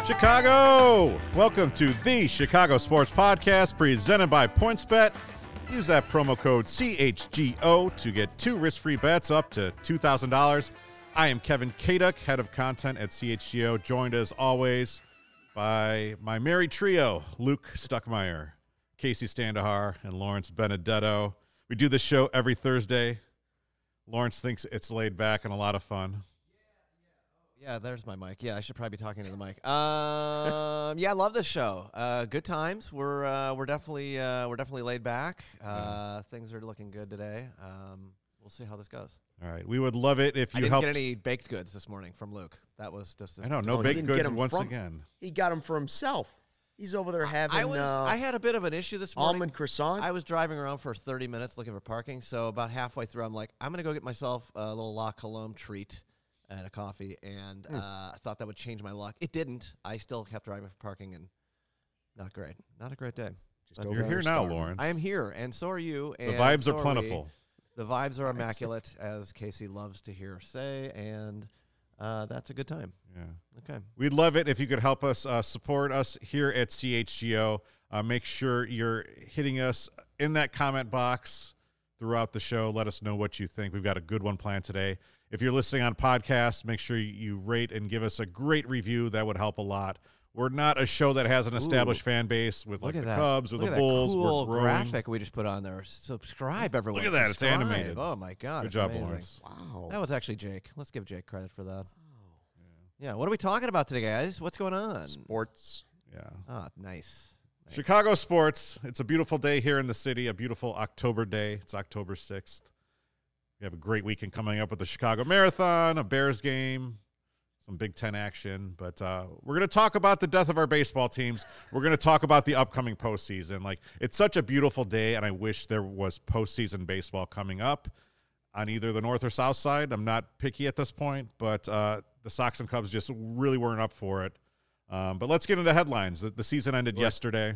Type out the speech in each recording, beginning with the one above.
Chicago! Welcome to the Chicago Sports Podcast presented by PointsBet. Use that promo code CHGO to get 2 risk-free bets up to $2,000. I am Kevin Kaduk, head of content at CHGO, joined as always by my merry trio, Luke Stuckmeyer, Casey Standahar, and Lawrence Benedetto. We do this show every Thursday. Lawrence thinks it's laid back and a lot of fun. Yeah, there's my mic. Yeah, I should probably be talking to the mic. Yeah, I love this show. Good times. We're definitely laid back. Things are looking good today. We'll see how this goes. All right, we would love it if you I didn't helped. get any baked goods this morning from Luke. That was just. I know, no baked goods once again. He got them for himself. He's over there having. I had a bit of an issue this morning. Almond croissant. I was driving around for 30 minutes looking for parking. So about halfway through, I'm like, I'm gonna go get myself a little La Colombe treat and a coffee, and I thought that would change my luck. It didn't. I still kept driving for parking, and not great. Not a great day. You're here now, Lawrence. I am here, and so are you. The vibes are plentiful. The vibes are immaculate, as Casey loves to hear say, and that's a good time. Yeah. Okay. We'd love it if you could help us support us here at CHGO. Make sure you're hitting us in that comment box throughout the show. Let us know what you think. We've got a good one planned today. If you're listening on podcasts, make sure you rate and give us a great review. That would help a lot. We're not a show that has an established fan base with like the Cubs or the Bulls. Look at that cool We're graphic we just put on there. Subscribe, everyone. Look at that. Subscribe. It's animated. Oh, my God. Good job, amazing. Lawrence. Wow. That was actually Jake. Let's give Jake credit for that. Yeah. What are we talking about today, guys? What's going on? Sports. Yeah. Oh, nice. Chicago sports. It's a beautiful day here in the city, a beautiful October day. It's October 6th. We have a great weekend coming up with the Chicago Marathon, a Bears game, some Big Ten action. But we're going to talk about the death of our baseball teams. We're going to talk about the upcoming postseason. Like, it's such a beautiful day, and I wish there was postseason baseball coming up on either the north or south side. I'm not picky at this point, but the Sox and Cubs just really weren't up for it. But let's get into headlines. The season ended yesterday.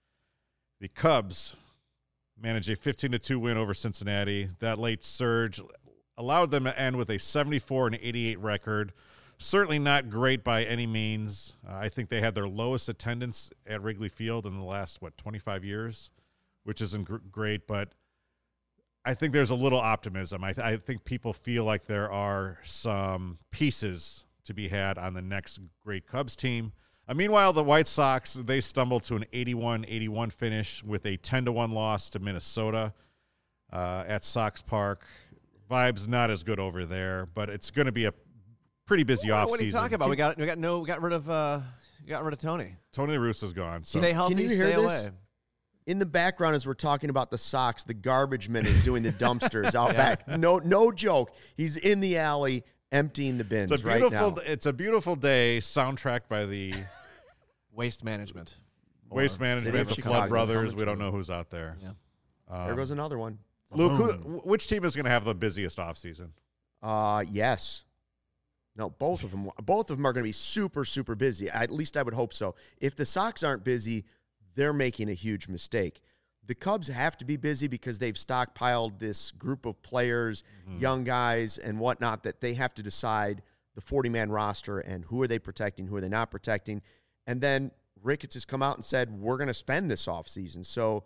The Cubs managed a 15-2 win over Cincinnati. That late surge allowed them to end with a 74-88 record. Certainly not great by any means. I think they had their lowest attendance at Wrigley Field in the last, 25 years, which isn't great, but I think there's a little optimism. I think people feel like there are some pieces to be had on the next great Cubs team. Meanwhile, the White Sox, they stumbled to an 81-81 finish with a 10-1 loss to Minnesota at Sox Park. Vibes not as good over there, but it's going to be a pretty busy offseason. What are you talking about? We got rid of Tony. Tony La Russa's gone. So. Stay healthy, Can you hear stay this? away. In the background, as we're talking about the Sox, the garbage man is doing the dumpsters out back. No joke. He's in the alley emptying the bins right now. It's a beautiful day, soundtracked by the Waste Management. Waste Management, the Chicago. Flood Brothers. We don't know who's out there. Yeah. There goes another one. Luke, which team is going to have the busiest offseason? Yes. No, both of them. Both of them are going to be super, super busy. At least I would hope so. If the Sox aren't busy, they're making a huge mistake. The Cubs have to be busy because they've stockpiled this group of players, young guys and whatnot, that they have to decide the 40-man roster and who are they protecting, who are they not protecting. And then Ricketts has come out and said, we're going to spend this offseason. So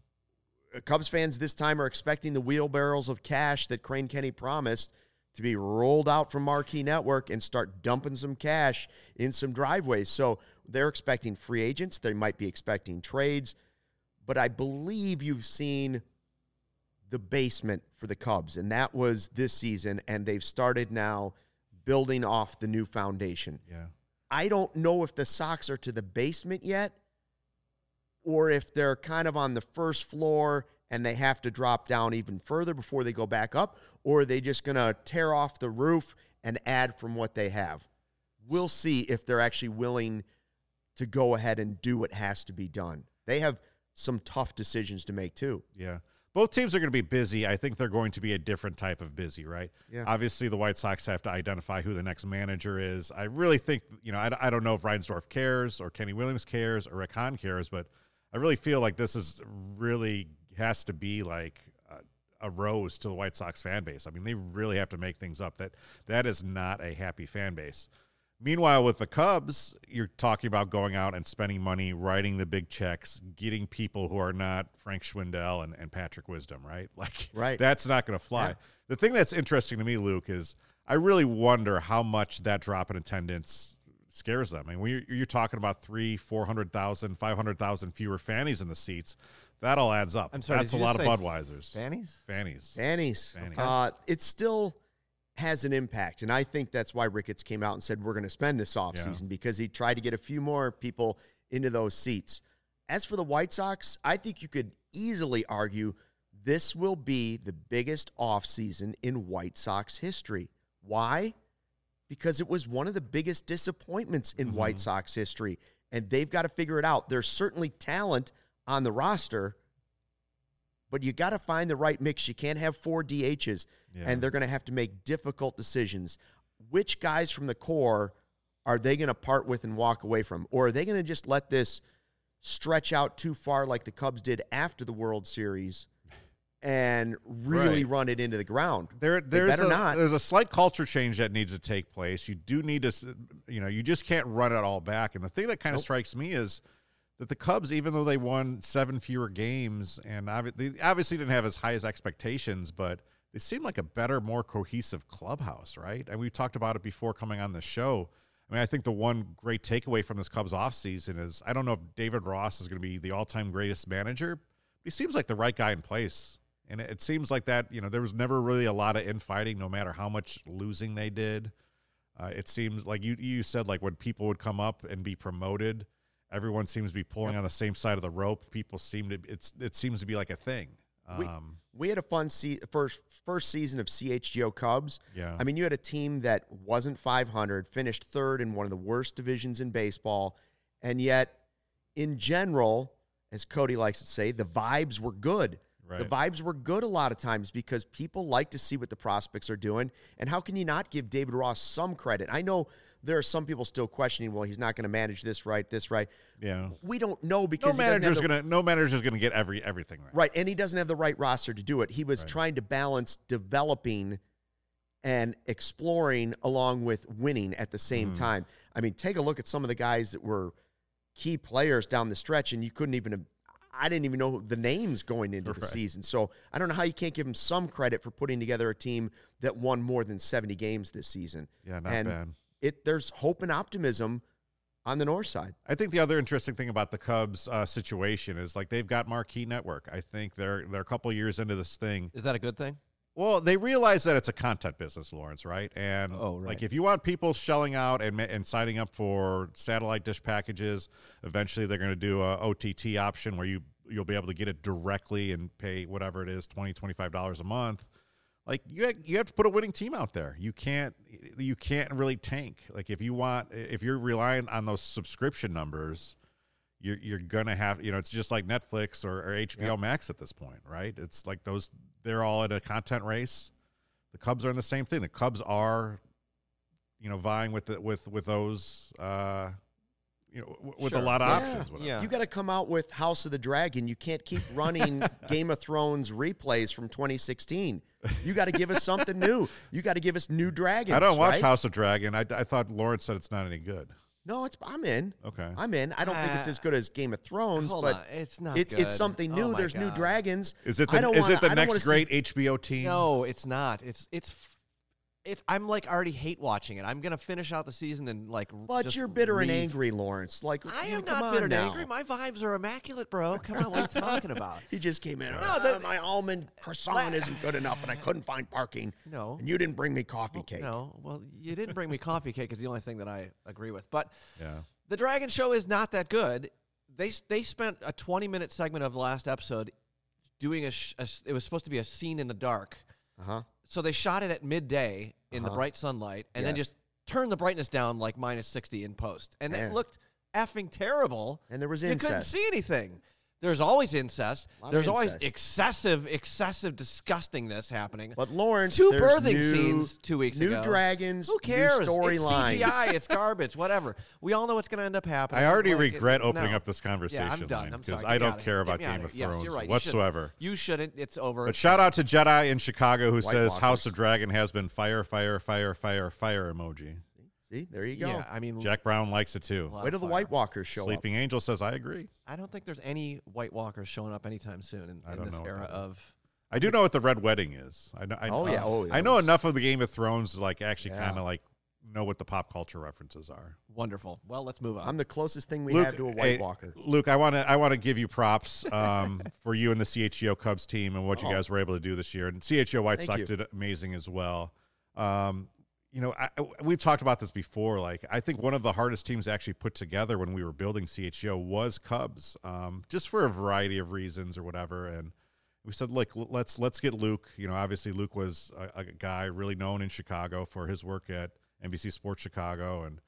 Cubs fans this time are expecting the wheelbarrows of cash that Crane Kenny promised to be rolled out from Marquee Network and start dumping some cash in some driveways. So they're expecting free agents. They might be expecting trades. But I believe you've seen the basement for the Cubs, and that was this season, and they've started now building off the new foundation. Yeah. I don't know if the Sox are to the basement yet or if they're kind of on the first floor and they have to drop down even further before they go back up, or are they just going to tear off the roof and add from what they have? We'll see if they're actually willing to go ahead and do what has to be done. They have some tough decisions to make too. Yeah. Both teams are going to be busy. I think they're going to be a different type of busy, right? Yeah. Obviously, the White Sox have to identify who the next manager is. I really think, I don't know if Reinsdorf cares or Kenny Williams cares or Rick Hahn cares, but I really feel like this is really has to be like a rose to the White Sox fan base. I mean, they really have to make things up. That is not a happy fan base. Meanwhile, with the Cubs, you're talking about going out and spending money, writing the big checks, getting people who are not Frank Schwindel and Patrick Wisdom, right? Like, Right. that's not going to fly. Yeah. The thing that's interesting to me, Luke, is I really wonder how much that drop in attendance scares them. I mean, when you're talking about 300,000, 400,000, 500,000 fewer fannies in the seats, that all adds up. I'm sorry. That's did a you lot just of say Budweisers. Fannies? Fannies. Fannies. Fannies. It still has an impact, and I think that's why Ricketts came out and said we're going to spend this offseason because he tried to get a few more people into those seats. As for the White Sox, I think you could easily argue this will be the biggest offseason in White Sox history. Why? Because it was one of the biggest disappointments in White Sox history, and they've got to figure it out. There's certainly talent on the roster, but you got to find the right mix. You can't have 4 DHs, and they're going to have to make difficult decisions. Which guys from the core are they going to part with and walk away from? Or are they going to just let this stretch out too far like the Cubs did after the World Series and really run it into the ground? There's a slight culture change that needs to take place. You do need to, you just can't run it all back. And the thing that kind of strikes me is that the Cubs, even though they won 7 fewer games, and they obviously didn't have as high as expectations, but they seem like a better, more cohesive clubhouse, right? And we talked about it before coming on the show. I mean, I think the one great takeaway from this Cubs offseason is I don't know if David Ross is going to be the all-time greatest manager, but he seems like the right guy in place. And it seems like that, there was never really a lot of infighting, no matter how much losing they did. It seems like you said, like, when people would come up and be promoted, everyone seems to be pulling on the same side of the rope. People seem to, it seems to be like a thing. We had a fun first season of CHGO Cubs. Yeah. I mean, you had a team that wasn't 500, finished third in one of the worst divisions in baseball, and yet, in general, as Cody likes to say, the vibes were good. Right. The vibes were good a lot of times because people like to see what the prospects are doing, and how can you not give David Ross some credit? I know there are some people still questioning, well, he's not going to manage this right. Yeah. We don't know because no manager's gonna get everything right. Right, and he doesn't have the right roster to do it. He was trying to balance developing and exploring along with winning at the same time. I mean, take a look at some of the guys that were key players down the stretch, and I didn't even know the names going into the season. So I don't know how you can't give him some credit for putting together a team that won more than 70 games this season. Yeah, not bad. There's hope and optimism on the north side. I think the other interesting thing about the Cubs situation is, like, they've got marquee network. I think they're a couple of years into this thing. Is that a good thing? Well, they realize that it's a content business, Lawrence, right? And like, if you want people shelling out and signing up for satellite dish packages, eventually they're going to do a OTT option where you'll be able to get it directly and pay whatever it is, $20, $25 a month. Like, you have to put a winning team out there. You can't really tank. Like, if you're relying on those subscription numbers, you're gonna have, it's just like Netflix or HBO Max at this point, right? It's like they're all at a content race. The Cubs are in the same thing. The Cubs are, vying with those, with a lot of options. Whatever. You got to come out with House of the Dragon. You can't keep running Game of Thrones replays from 2016. You got to give us something new. You got to give us new dragons. I don't watch House of Dragon. I thought Lawrence said it's not any good. No, I'm in. Okay. I'm in. I don't think it's as good as Game of Thrones, Hold but on. It's not it's good. something new. Oh, There's new dragons. Is it the next great HBO team? No, it's not. I'm like already hate watching it. I'm gonna finish out the season and like. But you're bitter and angry, Lawrence. Like, I am not bitter and angry. My vibes are immaculate, bro. Come on, what are you talking about? He just came in. No, my almond croissant isn't good enough, and I couldn't find parking. No, and you didn't bring me coffee cake. No, well, you didn't bring me coffee cake is the only thing that I agree with. But yeah, the Dragon Show is not that good. They spent a 20-minute segment of the last episode doing it was supposed to be a scene in the dark. So they shot it at midday in the bright sunlight and then just turned the brightness down like minus 60 in post. And it looked effing terrible. And there was incest. You couldn't see anything. There's always incest. There's always excessive disgustingness happening. But Lawrence, two birthing scenes 2 weeks ago. New dragons. Who cares? New storylines. It's CGI. It's garbage. Whatever. We all know what's going to end up happening. I already regret opening up this conversation. Yeah, I'm done. I'm sorry. Because I don't care about Game of Thrones whatsoever. You shouldn't. It's over. But shout out to Jedi in Chicago who says House of Dragon has been fire, fire, fire, fire, fire emoji. See, there you go. Yeah, I mean, Jack Brown likes it too. a lot Wait of till the fire. White Walkers show Sleeping Angel says, I agree. I don't think there's any White Walkers showing up anytime soon I in don't this know what era that is. of. I do know what the Red Wedding is. I know. I know enough of the Game of Thrones to like actually Yeah. kind of like know what the pop culture references are. Wonderful. Well, let's move on. I'm the closest thing we Luke, have to a White hey, Walker. Luke, I want to give you props for you and the CHGO Cubs team and what you Oh. guys were able to do this year. And CHGO White Thank Sox you. did amazing as well. You know, we've talked about this before. Like, I think one of the hardest teams to actually put together when we were building CHGO was Cubs, just for a variety of reasons or whatever. And we said, like, let's get Luke. You know, obviously Luke was a guy really known in Chicago for his work at NBC Sports Chicago, and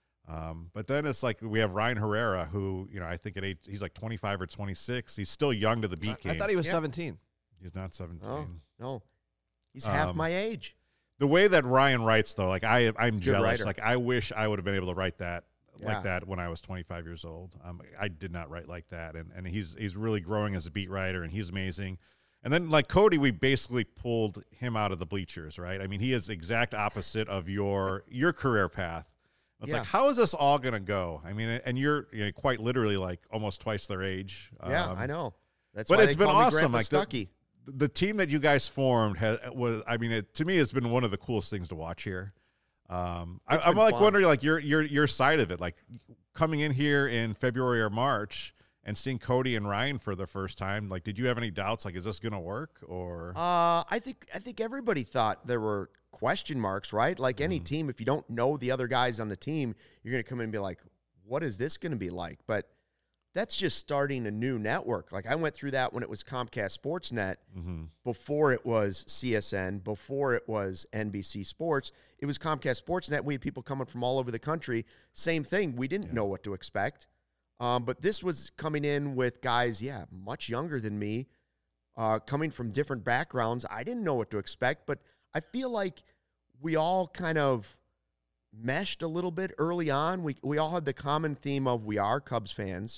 but then it's like we have Ryan Herrera, who, you know, I think at age, he's like 25 or 26. He's still young to the beat game. I thought he was Yeah. 17. He's not 17. Oh, no. He's half my age. The way that Ryan writes, though, like I'm Good jealous. writer. Like I wish I would have been able to write that Yeah. like that when I was 25 years old. I did not write like that, and he's really growing as a beat writer, and he's amazing. And then like Cody, we basically pulled him out of the bleachers, right? I mean, he is the exact opposite of your career path. It's Yeah. like, how is this all going to go? I mean, and you're, you know, quite literally like almost twice their age. Yeah, I know. That's but why it's they been call me awesome. Grandpa Like Stuckey. the team that you guys formed I mean, to me, has been one of the coolest things to watch here. I'm been like fun. wondering, like your side of it, like coming in here in February or March and seeing Cody and Ryan for the first time. Like, did you have any doubts? Like, is this going to work? Or I think everybody thought there were question marks, right? Like any team, if you don't know the other guys on the team, you're going to come in and be like, what is this going to be like? But that's just starting a new network. Like I went through that when it was Comcast Sportsnet, before it was CSN, before it was NBC Sports. It was Comcast Sportsnet. We had people coming from all over the country. Same thing. We didn't know what to expect. But this was coming in with guys, much younger than me, coming from different backgrounds. I didn't know what to expect, but I feel like we all kind of meshed a little bit early on. We all had the common theme of we are Cubs fans.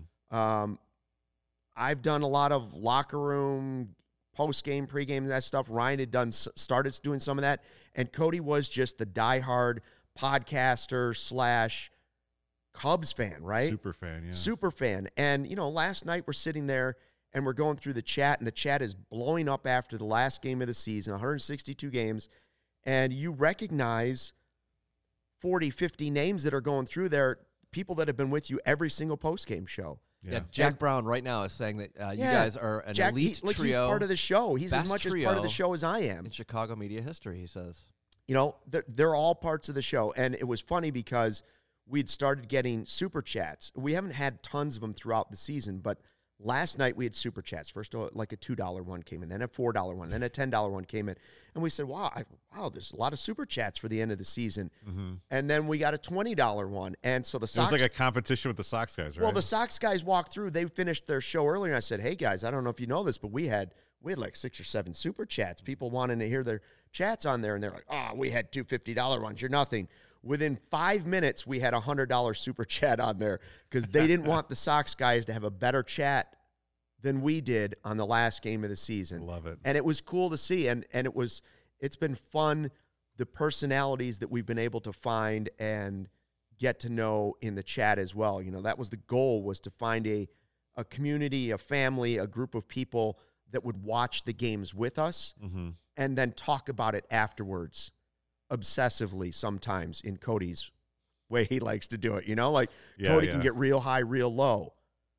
I've done a lot of locker room, post-game, pre-game, that stuff. Ryan had started doing some of that, and Cody was just the diehard podcaster / Cubs fan, right? super fan, yeah. Super fan. And, you know, last night we're sitting there and we're going through the chat, and the chat is blowing up after the last game of the season, 162 games, and you recognize 40, 50 names that are going through there, people that have been with you every single post-game show. Yeah, Jack Brown right now is saying that you guys are an elite trio. He's part of the show. He's as best much as part of trio the show as I am. in Chicago media history, he says. You know, they're all parts of the show. And it was funny because we'd started getting super chats. We haven't had tons of them throughout the season, but last night we had super chats. First, like a $2 one came in, then a $4 one, then a $10 one came in. And we said, wow, there's a lot of super chats for the end of the season. And then we got a $20 one. And so the It Sox... was like a competition with the Sox guys, right? Well, the Sox guys walked through. They finished their show earlier, and I said, hey, guys, I don't know if you know this, but we had like 6 or 7 super chats, people wanting to hear their chats on there, and they're like, oh, we had two $50 ones. You're nothing. Within 5 minutes, we had a $100 super chat on there because they didn't want the Sox guys to have a better chat than we did on the last game of the season. Love it. And it was cool to see, and it's been fun, the personalities that we've been able to find and get to know in the chat as well. You know, that was the goal, was to find a community, a family, a group of people that would watch the games with us and then talk about it afterwards obsessively sometimes in Cody's way he likes to do it. You know, like Cody can get real high, real low.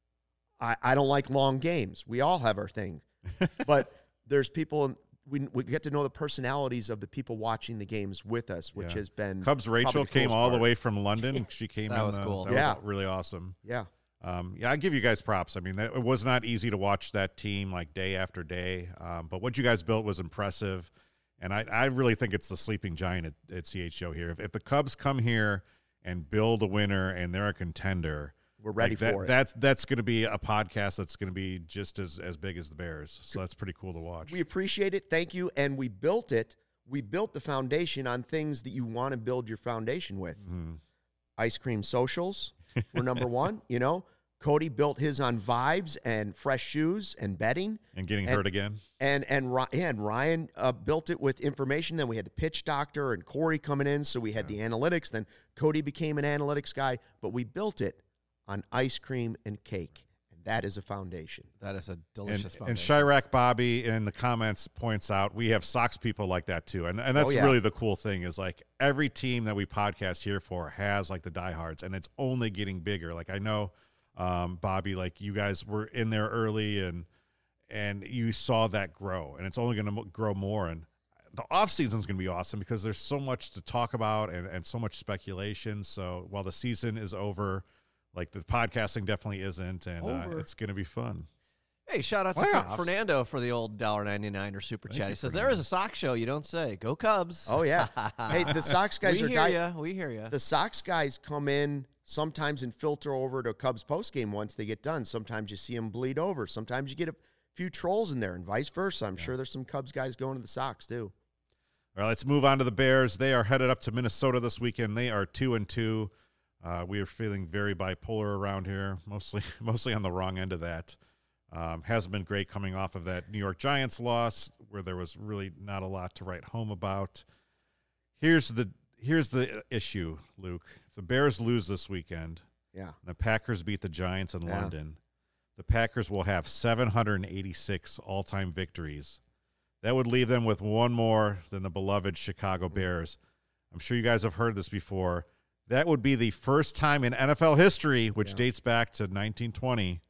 I don't like long games. We all have our things. But there's people, we get to know the personalities of the people watching the games with us, which has been Cubs Rachel came all the way from London. She came That in. was cool. That was really awesome. Yeah. I give you guys props. I mean, it was not easy to watch that team like day after day. But what you guys built was impressive. And I really think it's the sleeping giant at CHGO here. If the Cubs come here and build a winner and they're a contender, we're ready for it. That's going to be a podcast that's going to be just as big as the Bears. So that's pretty cool to watch. We appreciate it. Thank you. And we built it. We built the foundation on things that you want to build your foundation with. Ice cream socials were number one. You know, Cody built his on vibes and fresh shoes and betting. And getting hurt again. And Ryan built it with information. Then we had the pitch doctor and Corey coming in, so we had the analytics. Then Cody became an analytics guy, but we built it on ice cream and cake, and that is a foundation. That is a delicious And foundation. Chirac Bobby in the comments points out we have Sox people like that too, and that's really the cool thing is like every team that we podcast here for has like the diehards, and it's only getting bigger. Like I know, Bobby, like you guys were in there early and you saw that grow, and it's only going to grow more. And the offseason is going to be awesome because there's so much to talk about and so much speculation. So while the season is over, like the podcasting definitely isn't, and it's going to be fun. Hey, shout out to Fernando for the old $1.99 or super chat. He says, there is a Sox show you don't say. Go Cubs. Oh, yeah. Hey, the Sox guys we hear you. The Sox guys come in sometimes and filter over to Cubs postgame once they get done. Sometimes you see them bleed over. Sometimes you get a few trolls in there and vice versa. I'm sure there's some Cubs guys going to the Sox too. All right, let's move on to the Bears. They are headed up to Minnesota this weekend. They are 2-2. We are feeling very bipolar around here, mostly on the wrong end of that. Hasn't been great coming off of that New York Giants loss where there was really not a lot to write home about. Here's the issue, Luke. If the Bears lose this weekend, and the Packers beat the Giants in London, the Packers will have 786 all-time victories. That would leave them with one more than the beloved Chicago Bears. I'm sure you guys have heard this before. That would be the first time in NFL history, which dates back to 1920,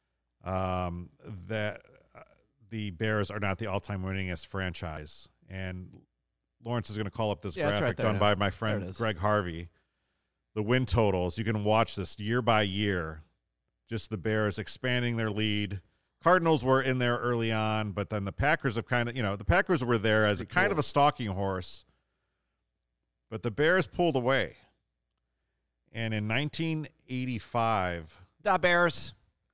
that the Bears are not the all-time winningest franchise. And Lawrence is going to call up this graphic done by my friend Greg Harvey. The win totals, you can watch this year by year, just the Bears expanding their lead. Cardinals were in there early on, but then the Packers have the Packers were there as a kind of a stalking horse, but the Bears pulled away. And in 1985, the Bears.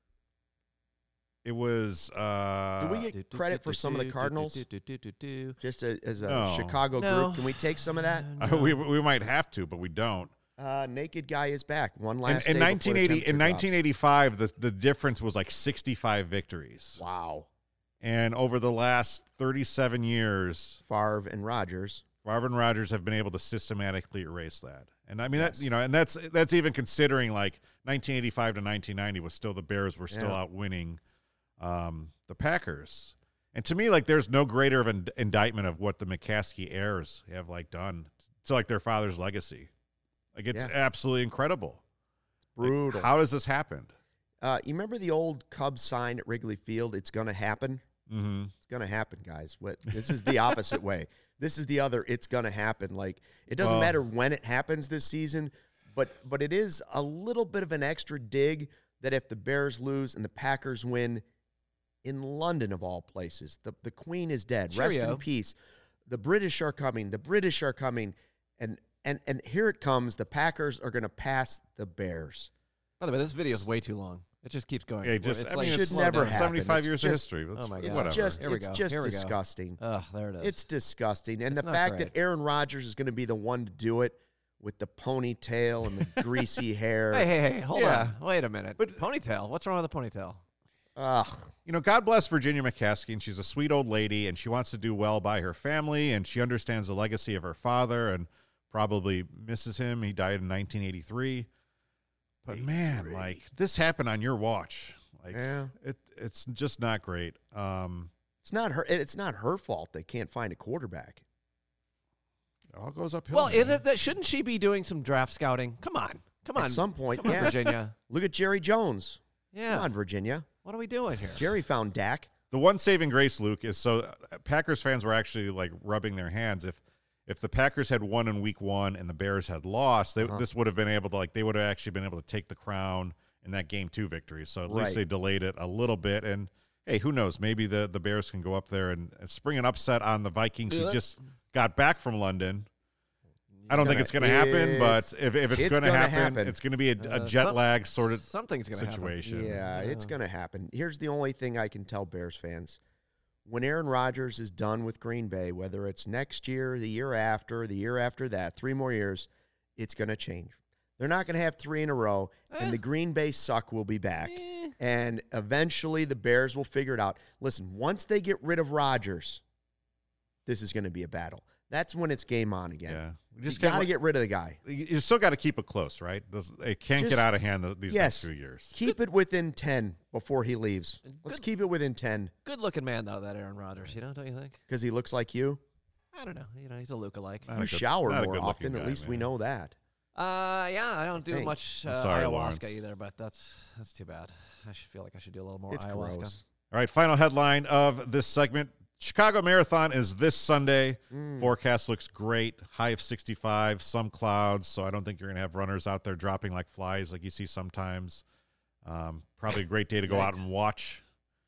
It was. Do we get credit for some of the Cardinals? Just as a Chicago group, can we take some of that? We might have to, but we don't. Naked Guy is back. One last in day 1980. In 1985, the difference was like 65 victories. Wow! And over the last 37 years, Favre and Rodgers have been able to systematically erase that. And I mean that's even considering like 1985 to 1990 was still the Bears were still out winning the Packers. And to me, like there's no greater of an indictment of what the McCaskey heirs have like done to like their father's legacy. Like it's absolutely incredible. It's brutal. Like, how does this happen? You remember the old Cubs sign at Wrigley Field? It's going to happen. Mm-hmm. It's going to happen, guys. This is the opposite way. This is the other. It's going to happen. Like it doesn't matter when it happens this season, but it is a little bit of an extra dig that if the Bears lose and the Packers win in London of all places, the Queen is dead. Rest in peace. The British are coming. The British are coming, and here it comes. The Packers are going to pass the Bears. By the way, this video is way too long. It just keeps going. Yeah, it should never happen. 75 years of history. Oh my God. It's just disgusting. Oh, there it is. It's disgusting. And the fact that Aaron Rodgers is going to be the one to do it with the ponytail and the greasy hair. Hey, hold on. Wait a minute. But ponytail? What's wrong with the ponytail? God bless Virginia McCaskey, and she's a sweet old lady, and she wants to do well by her family, and she understands the legacy of her father and probably misses him. He died in 1983. But man, like this happened on your watch. Like it's just not great. It's not her fault they can't find a quarterback. It all goes uphill. Well, is it that shouldn't she be doing some draft scouting? Come on. At some point, Come on, Virginia. Look at Jerry Jones. Yeah. Come on, Virginia. What are we doing here? Jerry found Dak. The one saving grace, Luke, is so Packers fans were actually like rubbing their hands. If the Packers had won in week 1 and the Bears had lost, this would have been able to they would have actually been able to take the crown in that game 2 victory. So at least they delayed it a little bit. And hey, who knows? Maybe the Bears can go up there and spring an upset on the Vikings who just got back from London. I don't think it's going to happen, but if it's going to happen, it's going to be a jet lag sort of situation. Yeah, it's going to happen. Here's the only thing I can tell Bears fans. When Aaron Rodgers is done with Green Bay, whether it's next year, the year after that, 3 more years, it's going to change. They're not going to have 3 in a row, and the Green Bay suck will be back. And eventually the Bears will figure it out. Listen, once they get rid of Rodgers, this is going to be a battle. That's when it's game on again. Yeah. You got to get rid of the guy. You still got to keep it close, right? It can't get out of hand these next few years. Keep it within 10 before he leaves. Let's keep it within 10. Good-looking man, though, that Aaron Rodgers, don't you think? Because he looks like you? I don't know. He's a lookalike. You shower more often. At least we know that. Yeah, I don't do much sorry, ayahuasca Lawrence. either, but that's too bad. I should feel like I should do a little more It's ayahuasca. gross. All right, final headline of this segment. Chicago Marathon is this Sunday. Forecast looks great. High of 65, some clouds, so I don't think you're going to have runners out there dropping like flies like you see sometimes. Probably a great day to go out and watch.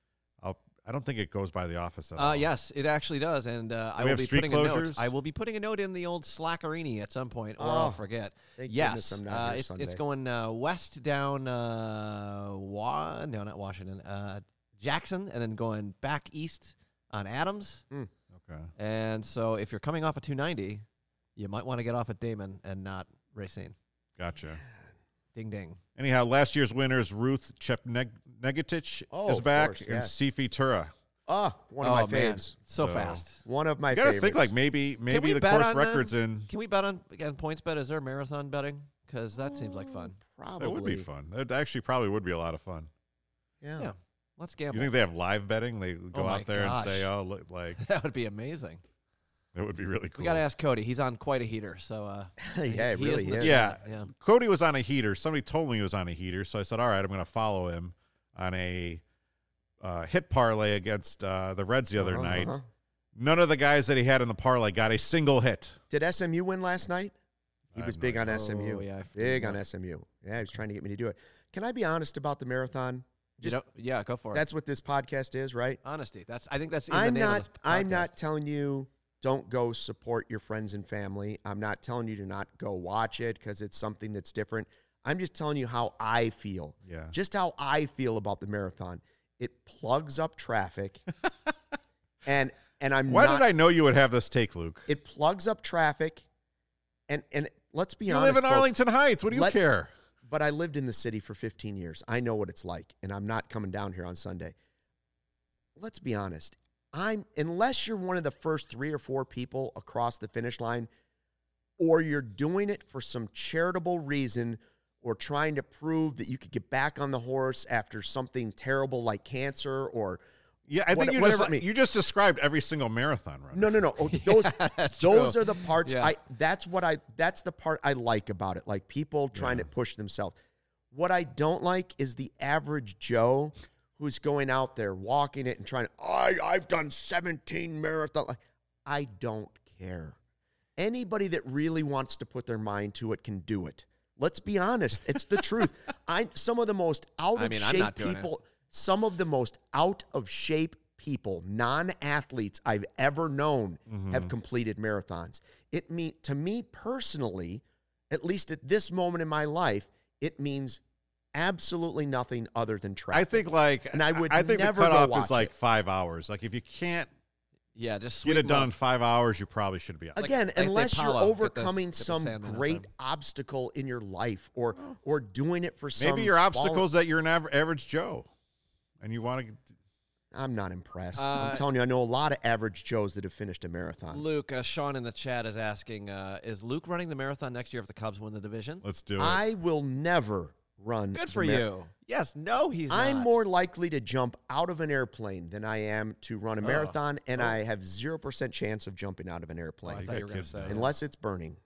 I don't think it goes by the office at all. Yes, it actually does, and I We will have be street putting a note. closures? I will be putting a note in the old Slackerini at some point, or I'll forget. Thank Yes, goodness I'm not here Sunday. it's going west down no, not Washington, Jackson, and then going back east on Adams. Okay. And so if you're coming off of 290, you might want to get off at Damon and not Racine. Gotcha. Ding, ding. Anyhow, last year's winners, Ruth Chepnegetich is of back, course, and yes. Sifi Tura. One of my man. faves. So So- fast. One of my You got to favorites. think like maybe we the bet course on record's in. Can we bet on points bet? Is there marathon betting? Because that seems like fun. Probably. That would be fun. It actually probably would be a lot of fun. Yeah. Let's gamble. You think they have live betting? They go Oh my out there gosh. and say, "Oh, look, like That would be amazing. that would be really cool." We got to ask Cody. He's on quite a heater. So Yeah, it really legit. is. Yeah. Yeah. Cody was on a heater. Somebody told me he was on a heater, so I said, "All right, I'm going to follow him on a hit parlay against the Reds the other night." None of the guys that he had in the parlay got a single hit. Did SMU win last night? He I was have big no on idea. SMU. Oh, yeah, I Big forgot. on SMU. Yeah, he was trying to get me to do it. Can I be honest about the marathon? Yeah, go for it. That's what this podcast is, right? Honesty. I think that's in the I'm name of not. this I'm podcast. not telling you don't go support your friends and family. I'm not telling you to not go watch it because it's something that's different. I'm just telling you how I feel. Yeah. Just how I feel about the marathon. It plugs up traffic, and I'm. Why not, did I know you would have this take, Luke? It plugs up traffic, and let's be You honest. live in folks, Arlington Heights. What do you care? But I lived in the city for 15 years. I know what it's like, and I'm not coming down here on Sunday. Let's be honest. Unless you're one of the first 3 or 4 people across the finish line, or you're doing it for some charitable reason, or trying to prove that you could get back on the horse after something terrible like cancer, or Yeah, I think whatever it means. you just described every single marathon runner. No. Oh, those that's those true. are the parts Yeah. that's the part I like about it. Like people trying to push themselves. What I don't like is the average Joe who's going out there walking it and trying to, I've done 17 marathons. I don't care. Anybody that really wants to put their mind to it can do it. Let's be honest. It's the truth. Some of the most out of I'm shape not doing people, some of the most out of shape people, non-athletes I've ever known have completed marathons. To me personally, at least at this moment in my life, it means absolutely nothing other than traffic. I think I think never the go cutoff watch is like it. 5 hours. Like if you can't Yeah, just get sweep it 'em done up. in 5 hours, you probably should be out. Again, they unless you're Paulo, overcoming get the some Sandman great up there. obstacle in your life or doing it for some Maybe your quality- obstacle is that you're an average Joe, and you want to. I'm not impressed. I'm telling you, I know a lot of average Joes that have finished a marathon. Luke, Sean in the chat is asking, is Luke running the marathon next year if the Cubs win the division? Let's do it. I will never run. Good the for you. Yes, no, he's I'm not. more likely to jump out of an airplane than I am to run a marathon, and I have 0% chance of jumping out of an Oh, airplane I thought you were going to kids say now. that. unless it's burning.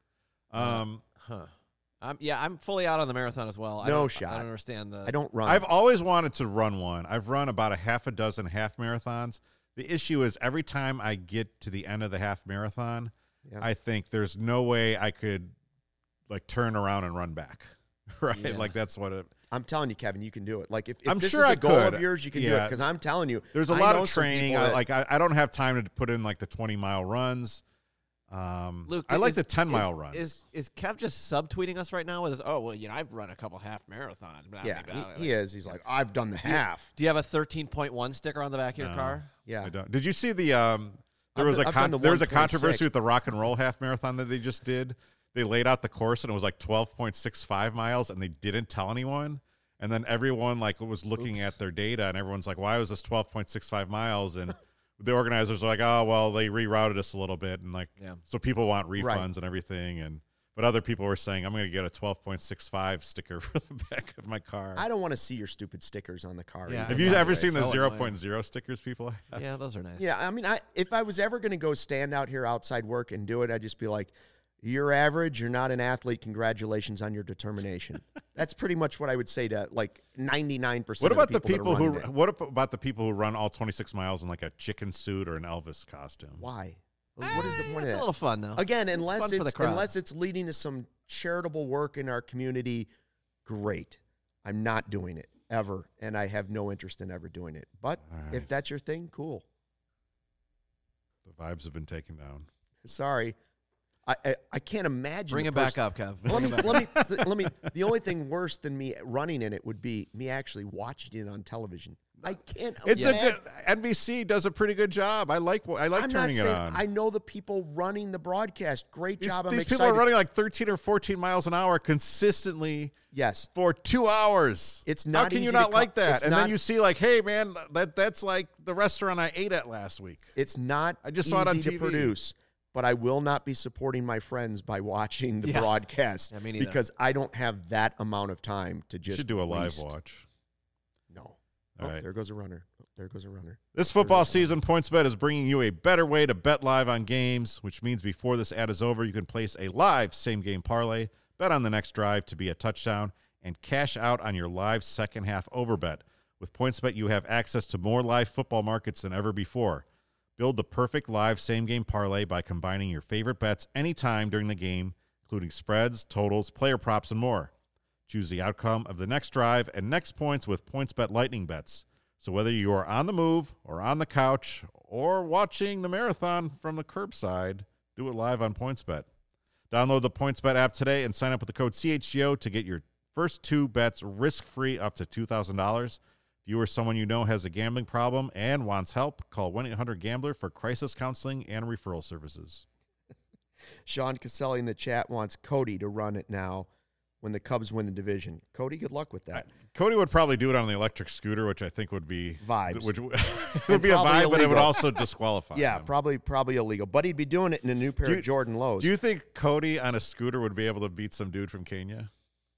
Huh. I'm fully out on the marathon as well. No I shot. don't understand the. I don't run. I've always wanted to run one. I've run about a half a dozen half marathons. The issue is every time I get to the end of the half marathon, Yeah. I think there's no way I could like turn around and run back. Right? Yeah. Like that's what it. I'm telling you, Kevin, you can do it. Like if I'm this sure is a I goal could. of yours, you can do it. Yeah. Because I'm telling you, There's a I lot know of some training. people that- I don't have time to put in like the 20-mile runs. Luke, I like is- the 10-mile runs. Is Kev just subtweeting us right now with his? Oh well, I've run a couple half marathons. Blah, yeah, blah, blah, he is. He's like, I've done the half. Do you have a 13.1 sticker on the back of your No. car? Yeah. I don't. Did you see the there I've was done- a I've done the there was a 126. controversy with the rock and roll half marathon that they just did. they laid out the course and it was like 12.65 miles and they didn't tell anyone. And then everyone like was looking at their data and everyone's like, why was this 12.65 miles? And the organizers are like, oh, well, they rerouted us a little bit. And like, so people want refunds and everything. But other people were saying, I'm going to get a 12.65 sticker for the back of my car. I don't want to see your stupid stickers on the car. Yeah, have you ever seen the 0.0 stickers people have? Yeah, those are nice. Yeah, I mean, if I was ever going to go stand out here outside work and do it, I'd just be like, you're average, you're not an athlete, congratulations on your determination. That's pretty much what I would say to like 99% What about of the people what about the people who run all 26 miles in like a chicken suit or an Elvis costume? Why? What is the point of that? It's a little fun, though. Again, It's unless fun for the crowd. unless it's leading to some charitable work in our community, great. I'm not doing it ever, and I have no interest in ever doing it. But if that's your thing, cool. The vibes have been taken down. Sorry. I can't imagine. Bring it back up, Kev. Let me. The only thing worse than me running in it would be me actually watching it on television. I can't. It's a good, NBC does a pretty good job. I like I'm turning not saying, it on. I know the people running the broadcast. Great job. I'm these excited. people are running like 13 or 14 miles an hour consistently. Yes. For 2 hours. It's not. How can easy you to not like that? And not, then you see like, hey man, that's like the restaurant I ate at last week. It's not. I just easy saw it on to TV. produce. But I will not be supporting my friends by watching the broadcast me neither. because I don't have that amount of time to just. You should do a live waste. watch. No. All right. There goes a runner. There goes a runner. This football season, PointsBet is bringing you a better way to bet live on games, which means before this ad is over, you can place a live same-game parlay, bet on the next drive to be a touchdown, and cash out on your live second-half overbet. With PointsBet, you have access to more live football markets than ever before. Build the perfect live same-game parlay by combining your favorite bets anytime during the game, including spreads, totals, player props, and more. Choose the outcome of the next drive and next points with PointsBet Lightning Bets. So whether you are on the move or on the couch or watching the marathon from the curbside, do it live on PointsBet. Download the PointsBet app today and sign up with the code CHGO to get your first 2 bets risk-free up to $2,000. If you or someone you know has a gambling problem and wants help, call 1-800-GAMBLER for crisis counseling and referral services. Sean Caselli in the chat wants Cody to run it now when the Cubs win the division. Cody, good luck with that. Cody would probably do it on the electric scooter, which I think would be vibes. Which would be a vibe, illegal. but it would also disqualify Yeah, him. probably illegal. But he'd be doing it in a new pair of Jordan Lows. Do you think Cody on a scooter would be able to beat some dude from Kenya?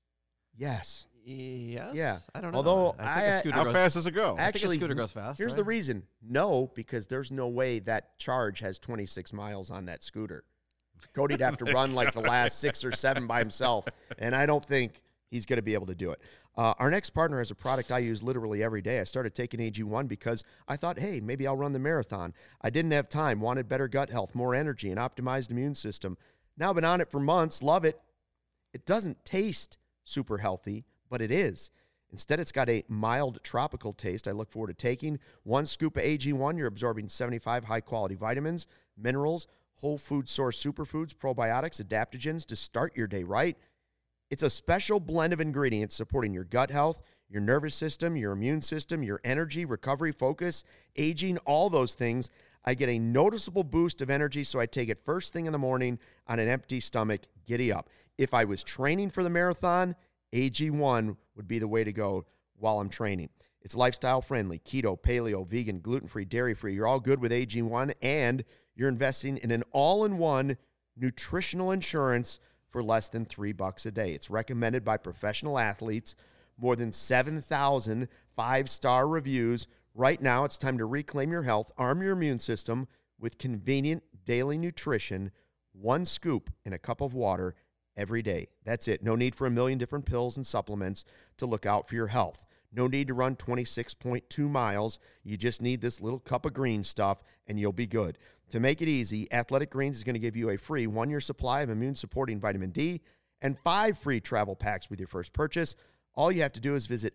Yes. Yes? Yeah. I don't know. Although I think a scooter How goes, fast does it go? Actually, I think a scooter goes fast. Here's right? the reason. No, because there's no way that charge has 26 miles on that scooter. Cody'd have to run like the last 6 or 7 by himself, and I don't think he's going to be able to do it. Our next partner has a product I use literally every day. I started taking AG1 because I thought, hey, maybe I'll run the marathon. I didn't have time, wanted better gut health, more energy, an optimized immune system. Now I've been on it for months, love it. It doesn't taste super healthy, but it is. Instead, it's got a mild tropical taste. I look forward to taking 1 scoop of AG1. You're absorbing 75 high-quality vitamins, minerals, whole food source superfoods, probiotics, adaptogens to start your day right. It's a special blend of ingredients supporting your gut health, your nervous system, your immune system, your energy, recovery, focus, aging, all those things. I get a noticeable boost of energy, so I take it first thing in the morning on an empty stomach. Giddy up. If I was training for the marathon, AG1 would be the way to go while I'm training. It's lifestyle friendly, keto, paleo, vegan, gluten-free, dairy-free. You're all good with AG1, and you're investing in an all-in-one nutritional insurance for less than $3 a day. It's recommended by professional athletes, more than 7,000 5-star reviews. Right now, it's time to reclaim your health, arm your immune system with convenient daily nutrition, 1 scoop in a cup of water every day. That's it. No need for a million different pills and supplements to look out for your health. No need to run 26.2 miles. You just need this little cup of green stuff, and you'll be good. To make it easy, Athletic Greens is going to give you a free 1-year supply of immune-supporting vitamin D and 5 free travel packs with your first purchase. All you have to do is visit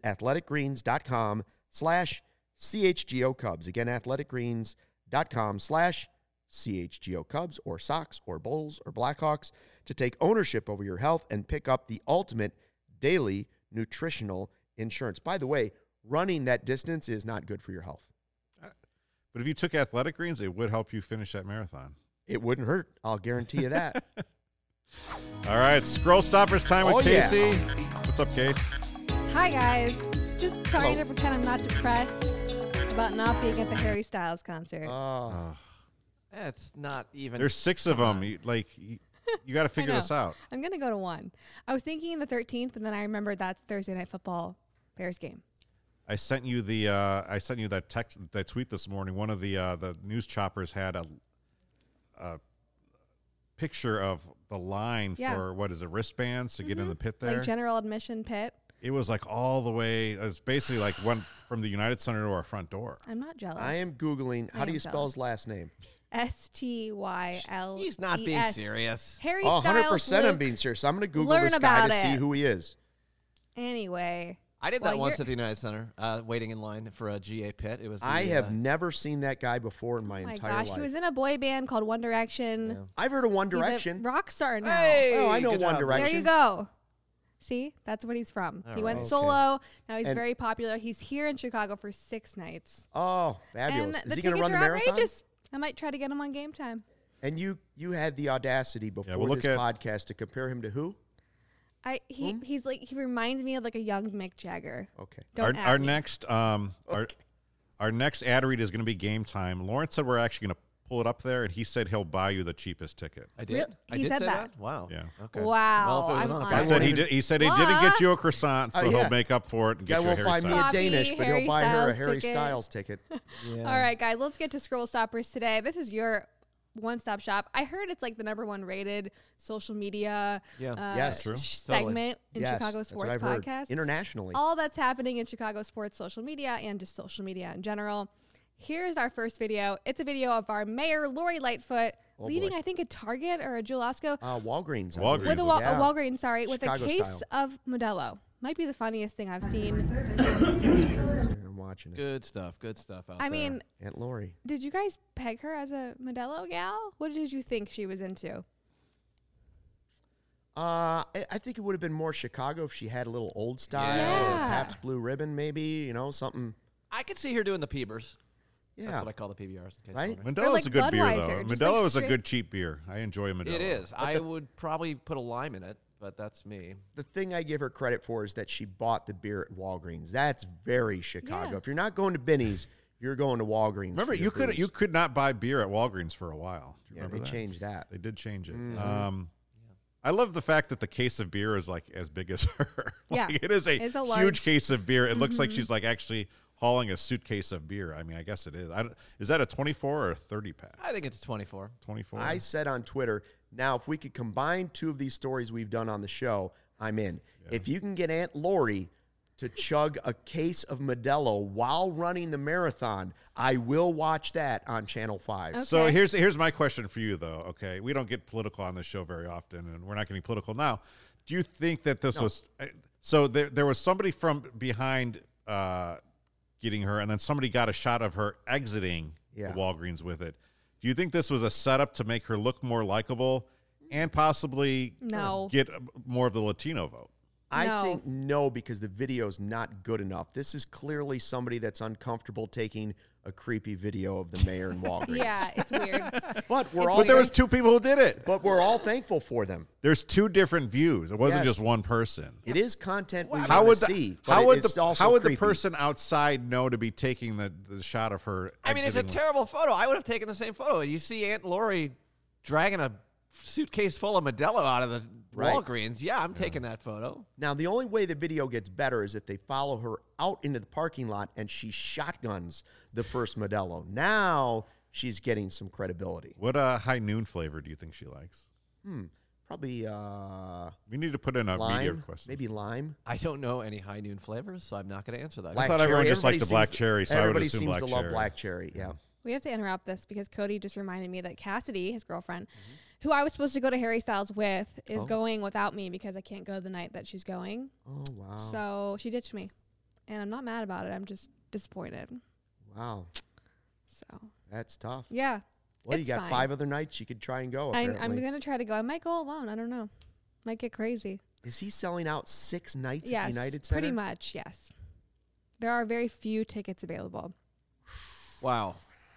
athleticgreens.com/CHGO Cubs. Again, athleticgreens.com/CHGO Cubs, or Sox or Bulls or Blackhawks, to take ownership over your health and pick up the ultimate daily nutritional insurance. By the way, running that distance is not good for your health. But if you took Athletic Greens, it would help you finish that marathon. It wouldn't hurt. I'll guarantee you that. All right, Scroll Stoppers time with Oh, yeah. Casey. What's up, Case? Hi, guys. Just trying Hello. to pretend I'm not depressed about not being at the Harry Styles concert. It's not even. There's 6 of them. You got to figure know. this out. I'm going to go to one. I was thinking the 13th, but then I remembered that's Thursday Night Football Bears game. I sent you that tweet this morning. One of the news choppers had a picture of the line for what is it, wristbands to get in the pit there. Like general admission pit. It was like all the way. It's basically like went from the United Center to our front door. I'm not jealous. I am Googling. How do you spell his last name? STYL. He's not being serious. Harry Oh, Styles. 100% I'm Luke. being serious. I'm going to Google Learn this guy about to see it. who he is. Anyway. I did Well, that once you're- at the United Center, waiting in line for a GA pit. It was. I have never seen that guy before in my Oh my entire gosh, life. he was in a boy band called One Direction. Yeah. I've heard of One He's Direction. a rock star now. Hey, Oh, I know good One job. Direction. There you go. See, that's what he's from. All He went right. solo. Now he's And- very popular. He's here in Chicago for 6 nights. Oh, fabulous. And Is the he going to tickets run the are marathon? outrageous. I might try to get him on Game Time. And you had the audacity before we'll look this at- podcast to compare him to who? He's like, he reminds me of like a young Mick Jagger. Okay. Don't Our at me. next our next ad read is going to be Game Time. Lawrence said we're actually going to pull it up there, and he said he'll buy you the cheapest ticket. I did. Real- I he did said say that. Wow. Yeah. Okay. Wow, Well, if it was I'm on the honored. He I said won't he even- did. He said he didn't get you a croissant, so yeah. he'll make up for it and get Guy you a won't Harry buy me a Styles. Coffee, Danish, but Harry he'll buy her a Styles Harry ticket. Styles ticket. Yeah. All right, guys, let's get to Scroll Stoppers today. This is your one-stop shop. I heard it's like the #1 rated social media Yes. True. segment in Yes, Chicago that's what sports I've heard. podcast. Internationally. All that's happening in Chicago sports social media and just social media in general. Here's our first video. It's a video of our mayor, Lori Lightfoot, leaving, boy. I think, a Target or a Jewel-Osco Walgreens. I Walgreens. believe. with a, Yeah. Walgreens, sorry, with Chicago a case style. of Modelo. Might be the funniest thing I've seen. I'm watching it. Good stuff. Good stuff out I there. mean, Aunt Lori. did you guys peg her as a Modelo gal? What did you think she was into? I think it would have been more Chicago if she had a little old style Yeah. or Pabst Blue Ribbon, maybe, something. I could see her doing the Peebers. Yeah. That's what I call the PBRs. In case Right? you're wondering. Modelo's like a good beer, Budweiser, though. just Modelo like is a straight- good cheap beer. I enjoy a Modelo. It is. I would probably put a lime in it, but that's me. The thing I give her credit for is that she bought the beer at Walgreens. That's very Chicago. Yeah. If you're not going to Benny's, you're going to Walgreens. Remember, for your booze. you could not buy beer at Walgreens for a while. Do you Yeah, remember they that? changed that. They did change it. Mm-hmm. I love the fact that the case of beer is like as big as her. Yeah. Like, it is It's a huge large- case of beer. It looks like she's like actually hauling a suitcase of beer. I mean, I guess it is. Is that a 24 or a 30 pack? I think it's 24. 24. I said on Twitter, now if we could combine two of these stories we've done on the show, I'm in. If you can get Aunt Lori to chug a case of Modelo while running the marathon, I will watch that on Channel 5. So Okay. here's my question for you, though. Okay, we don't get political on this show very often, and we're not getting political now. Do you think that this was so? There was somebody from behind getting her, and then somebody got a shot of her exiting Yeah. the Walgreens with it. Do you think this was a setup to make her look more likable and possibly No. get more of the Latino vote? I No. think no, because the video's not good enough. This is clearly somebody that's uncomfortable taking a creepy video of the mayor in Walgreens. Yeah, it's weird. But we're all But there was two people who did it. but we're all thankful for them. There's two different views. It wasn't Yes. just one person. It is content we How want would to the see. how but would it's the also how would the creepy. person outside know to be taking the shot of her? I mean, it's a exiting? terrible photo. I would have taken the same photo. You see Aunt Lori dragging a suitcase full of Modelo out of the Right. Walgreens. Yeah, I'm taking that photo. Now, the only way the video gets better is if they follow her out into the parking lot and she shotguns the first Modelo. Now she's getting some credibility. What high noon flavor do you think she likes? Probably We need to put in a media lime, request. maybe lime. I don't know any high noon flavors, so I'm not going to answer that. Black thought everyone cherry. just liked the black seems- cherry, so I would everybody assume seems black to love cherry. black cherry. Yeah. We have to interrupt this because Cody just reminded me that Cassidy, his girlfriend, Mm-hmm. who I was supposed to go to Harry Styles with, is Oh. going without me because I can't go the night that she's going. Oh wow. So she ditched me. And I'm not mad about it. I'm just disappointed. Wow. So, That's tough. yeah. Well, you it's got fine. 5 other nights you could try and go. I'm Apparently. going to try to go. I might go alone. I don't know. Might get crazy. Is he selling out 6 nights Yes. at the United Center? Pretty much, yes. There are very few tickets available. Wow.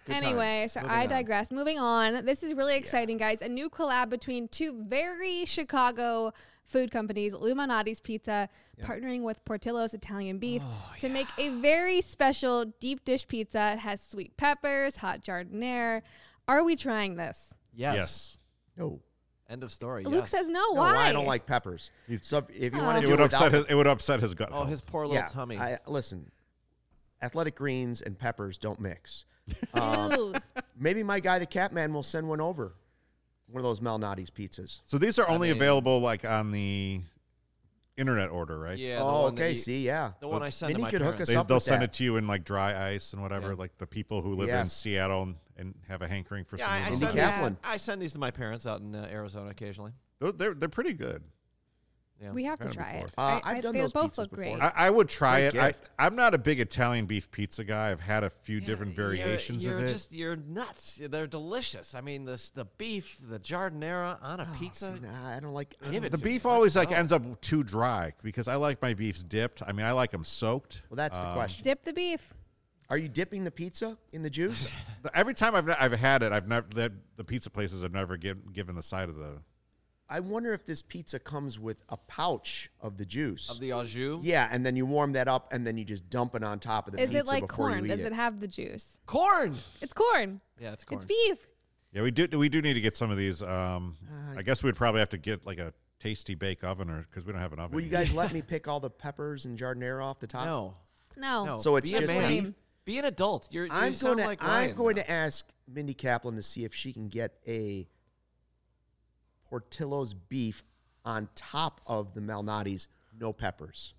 Anyway, so Moving I on. digress. Moving on. This is really exciting, guys. A new collab between two very Chicago food companies, Luminati's Pizza, partnering with Portillo's Italian Beef to make a very special deep dish pizza. It has sweet peppers, hot giardiniera. Are we trying this? Yes. No. End of story. Luke yes. says no. No, Why? I don't like peppers. So if you want It to do would it upset without, his, it would upset his gut. Oh, health. his poor little tummy. Listen, athletic greens and peppers don't mix. Ew. Maybe my guy, the Catman, will send one over. One of those Malnati's pizzas. So these are only mean- available like on the internet order, right? yeah. The Oh, one that okay. you- See, yeah. The one I sent to Vinny my could hook parents. us up They'll with send that. it to you in like dry ice and whatever. Yeah. Like the people who live in Yes. Seattle and have a hankering for Yeah, some I of Vinny those. send, Yeah. Kaplan. I send these to my parents out in Arizona occasionally. They're pretty good. Yeah. We have to Had 'em try before. it. I've done they those both pizzas look before. great. I would try Great it. gift. I'm not a big Italian beef pizza guy. I've had a few different variations you're of it. You're nuts. They're delicious. I mean, the beef, the giardiniera on a pizza. See, nah, I don't like. Give it The to me. beef Let's always like go. ends up too dry because I like my beefs dipped. I mean, I like them soaked. Well, that's the question. Dip the beef. Are you dipping the pizza in the juice? Every time I've had it, I've never the pizza places have never given the side of the. I wonder if this pizza comes with a pouch of the juice. Of the au jus. Yeah, and then you warm that up, and then you just dump it on top of the Is pizza it like before corn? you eat Does it have the juice? Corn. It's corn. Yeah, it's corn. It's beef. Yeah, we do need to get some of these. I guess we'd probably have to get like a tasty bake oven or because we don't have an oven. Will you here. guys let me pick all the peppers and giardiniera off the top? No. No. No. So it's Be a just man. beef? Be an adult. You I'm sound going to like Ryan now. ask Mindy Kaplan to see if she can get a Portillo's beef on top of the Malnati's, no peppers.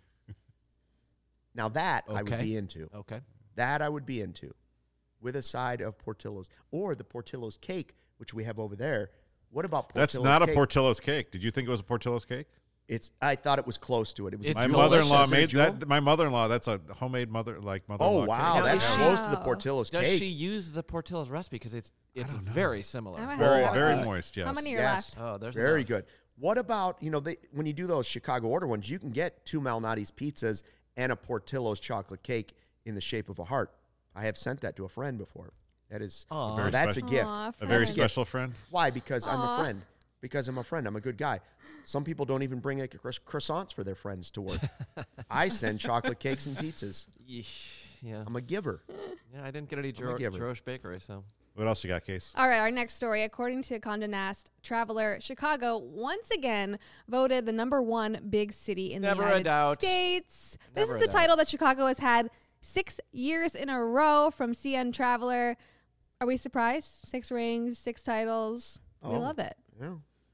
Now that I would Okay. be into. Okay. That I would be into, with a side of Portillo's or the Portillo's cake, which we have over there. What about Portillo's That's not cake? a Portillo's cake. Did you think it was a Portillo's cake? I thought it was close to it. It was It's My delicious. mother-in-law Is it a made jewel? that. My mother-in-law. That's a homemade mother's-in-law. Oh wow, Now, that's is she- close to the Wow. Portillo's Does cake. she use the Portillo's recipe? Because it's very similar. I might Very have very those. moist. Yes. How many are Yes. left? Oh, there's Very enough. good. What about, when you do those Chicago order ones, you can get 2 Malnati's pizzas and a Portillo's chocolate cake in the shape of a heart. I have sent that to a friend before. That is, Aw. Very that's a special. gift. Aw, A very friend. special friend. Why? Because I'm a Aw. friend. Because I'm a friend. I'm a good guy. Some people don't even bring like croissants for their friends to work. I send chocolate cakes and pizzas. Yeesh. Yeah. I'm a giver. Yeah, I didn't get any I'm a giver. Jerosh Bakery, so. What else you got, Case? All right, our next story. According to Condé Nast Traveler, Chicago once again voted the #1 big city in Never the a United doubt. States. This Never is a the doubt. title that Chicago has had 6 years in a row from CN Traveler. Are we surprised? 6 rings, 6 titles. We Oh. love it. Yeah.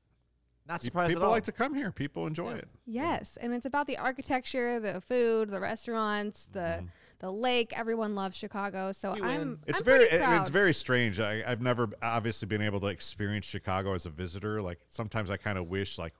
Not surprised at People all. like to come here. People enjoy it. Yes, and it's about the architecture, the food, the restaurants, Mm-hmm. the lake. Everyone loves Chicago, so We I'm win. It's I'm very pretty proud. it's very strange. I've never obviously been able to experience Chicago as a visitor. Like sometimes I kind of wish like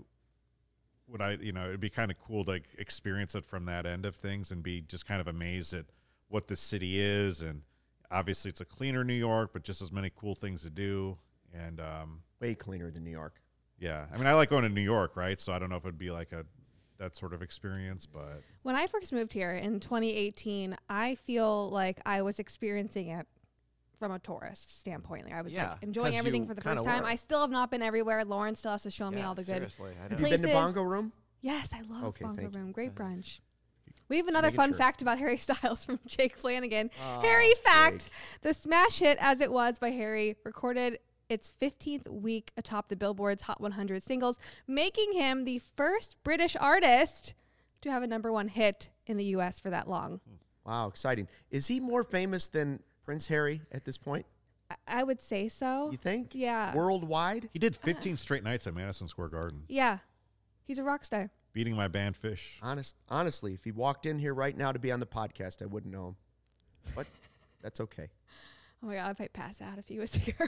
would I it'd be kind of cool to like, experience it from that end of things and be just kind of amazed at what the city is. And obviously it's a cleaner New York, but just as many cool things to do. And Way cleaner than New York. yeah, I mean I like going to New York, right? So I don't know if it'd be like that sort of experience, but When I first moved here in 2018, I feel like I was experiencing it from a tourist standpoint. Like I was Yeah, like enjoying 'cause everything you for the kinda first time. were. I still have not been everywhere. Lauren still has to show me Yeah, all the good. seriously, I Have know. you been to Places. Bongo Room? Yes, I love Okay, Bongo thank you. Room. Great brunch. We have another making fun sure. fact about Harry Styles from Jake Flanagan. Oh, Harry fact: Jake. the smash hit "As It Was" by Harry recorded its 15th week atop the Billboard's Hot 100 singles, making him the first British artist to have a #1 hit in the U.S. for that long. Wow, exciting. Is he more famous than Prince Harry at this point? I would say so. You think? Yeah. Worldwide? he did 15 straight nights at Madison Square Garden, Yeah. He's a rock star. beating my band Fish. Honestly, if he walked in here right now to be on the podcast, I wouldn't know him. But that's okay. Oh my God, I might pass out if he was here.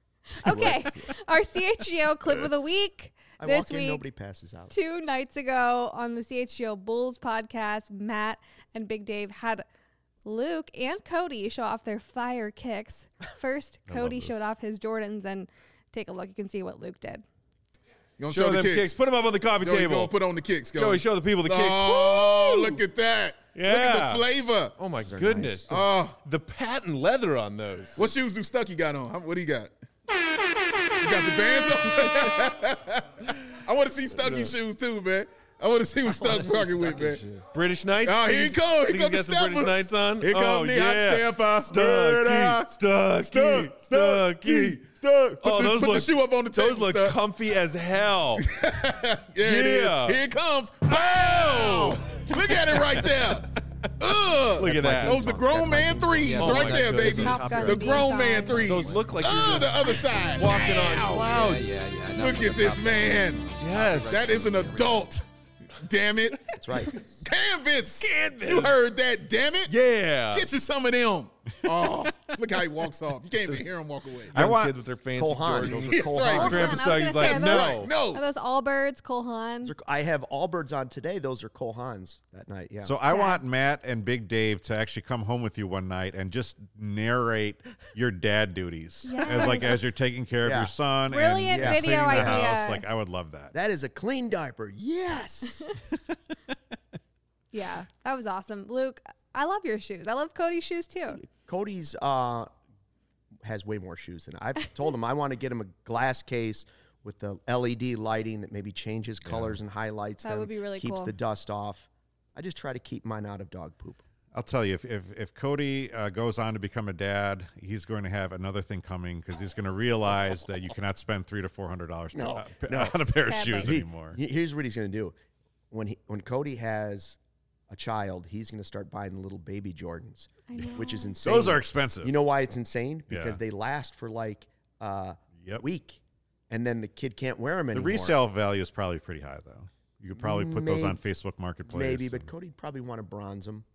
Okay. Our CHGO clip of the week. I This walk in, week, nobody passes out. 2 nights ago on the CHGO Bulls podcast, Matt and Big Dave had Luke and Cody show off their fire kicks. First, I love Cody this. showed off his Jordans, and take a look. You can see what Luke did. You gonna Show the them kicks. Put them up on the coffee Joey's table. gonna put on the kicks. Joey, show the people the kicks. Oh, Woo! look at that. Look at Yeah. the flavor. Oh my are goodness. Oh, The patent leather on those. what shoes do Stucky got on? What do you got? You got the bands on? I want to see Stucky shoes too, man. I want to see what Stuck rocking with, man. British Knights? Oh, here he Think comes. Here he's comes got the some British steppers. Knights on? Here comes oh, the yeah. hot stepper. Stucky. Stuck. Oh, those Put look, the shoe up on the table. those look Stuck. comfy as hell. Yeah, it is. Yeah. Here it comes. Bow! Look at it right there. Look at that. Those the grown man threes Oh right my there, goodness. baby. Top Gun The being grown man signed. threes. Those look like you're the just other side. walking on Ow. clouds. Yeah. No, Look at this man. Yes. That is an adult. Damn it. That's right. Canvas. You heard that, damn it. Yeah. Get you some of them. Oh, look how he walks off. You can't even hear him walk away. I want kids with their fancy Cole Haan. Jordans. Those are That's Cole right. Haan. Grandpa I was Stuggy's gonna like, say, no. No. Are those Allbirds, Cole Haan? I have Allbirds on today. Those are Cole Haans that night. Yeah. So I want Matt and Big Dave to actually come home with you one night and just narrate your dad duties as you're taking care of Yeah. your son. Brilliant and video cleaning the idea. house. Like I would love that. that is a clean diaper. Yes. Yeah, that was awesome. Luke, I love your shoes. I love Cody's shoes too. Cody's has way more shoes than I've told him. I want to get him a glass case with the LED lighting that maybe changes colors and highlights That them, would be really keeps cool. the dust off. I just try to keep mine out of dog poop. I'll tell you, if Cody goes on to become a dad, he's going to have another thing coming because he's going to realize that you cannot spend $300 to $400 No. on a pair of Sadly. shoes anymore. Here's what he's going to do. When Cody has a child, he's going to start buying the little baby Jordans, I know. which is insane. Those are expensive. You know why it's insane? Because Yeah. they last for like a Yep. week, and then the kid can't wear them The anymore. resale value is probably pretty high, though. You could probably put those on Maybe- Facebook Marketplace. Maybe, but and- Cody'd probably want to bronze them.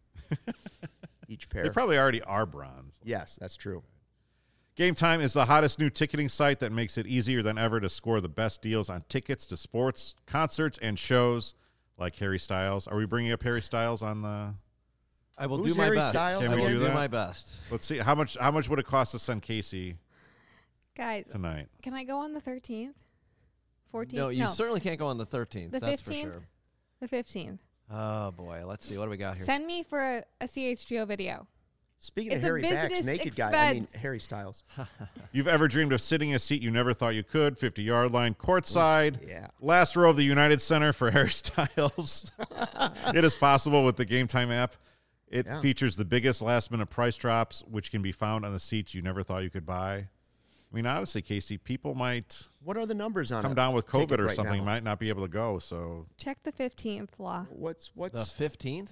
Each pair. they probably already are bronze. Yes, that's true. Game Time is the hottest new ticketing site that makes it easier than ever to score the best deals on tickets to sports, concerts, and shows like Harry Styles. Are we bringing up Harry Styles on the? I will Who's do my Harry best. Styles Can we I will do do that? my best. Let's see how much would it cost to send Casey Guys, tonight? can I go on the 13th? 14th? No, you certainly can't go on the 13th. The that's 15th? for sure. The 15th. Oh boy, let's see what do we got here. Send me for a CHGO video. Speaking It's of a Harry Backs, business naked guy, I mean expense. Harry Styles. You've ever dreamed of sitting in a seat you never thought you could, 50-yard line, courtside, Yeah. last row of the United Center for Harry Styles. It is possible with the Game Time app. It Yeah. features the biggest last-minute price drops, which can be found on the seats you never thought you could buy. I mean, honestly, Casey, people might What are the numbers on come a down with ticket COVID or right something, now? might not be able to go. So Check the 15th, Law. What's The 15th?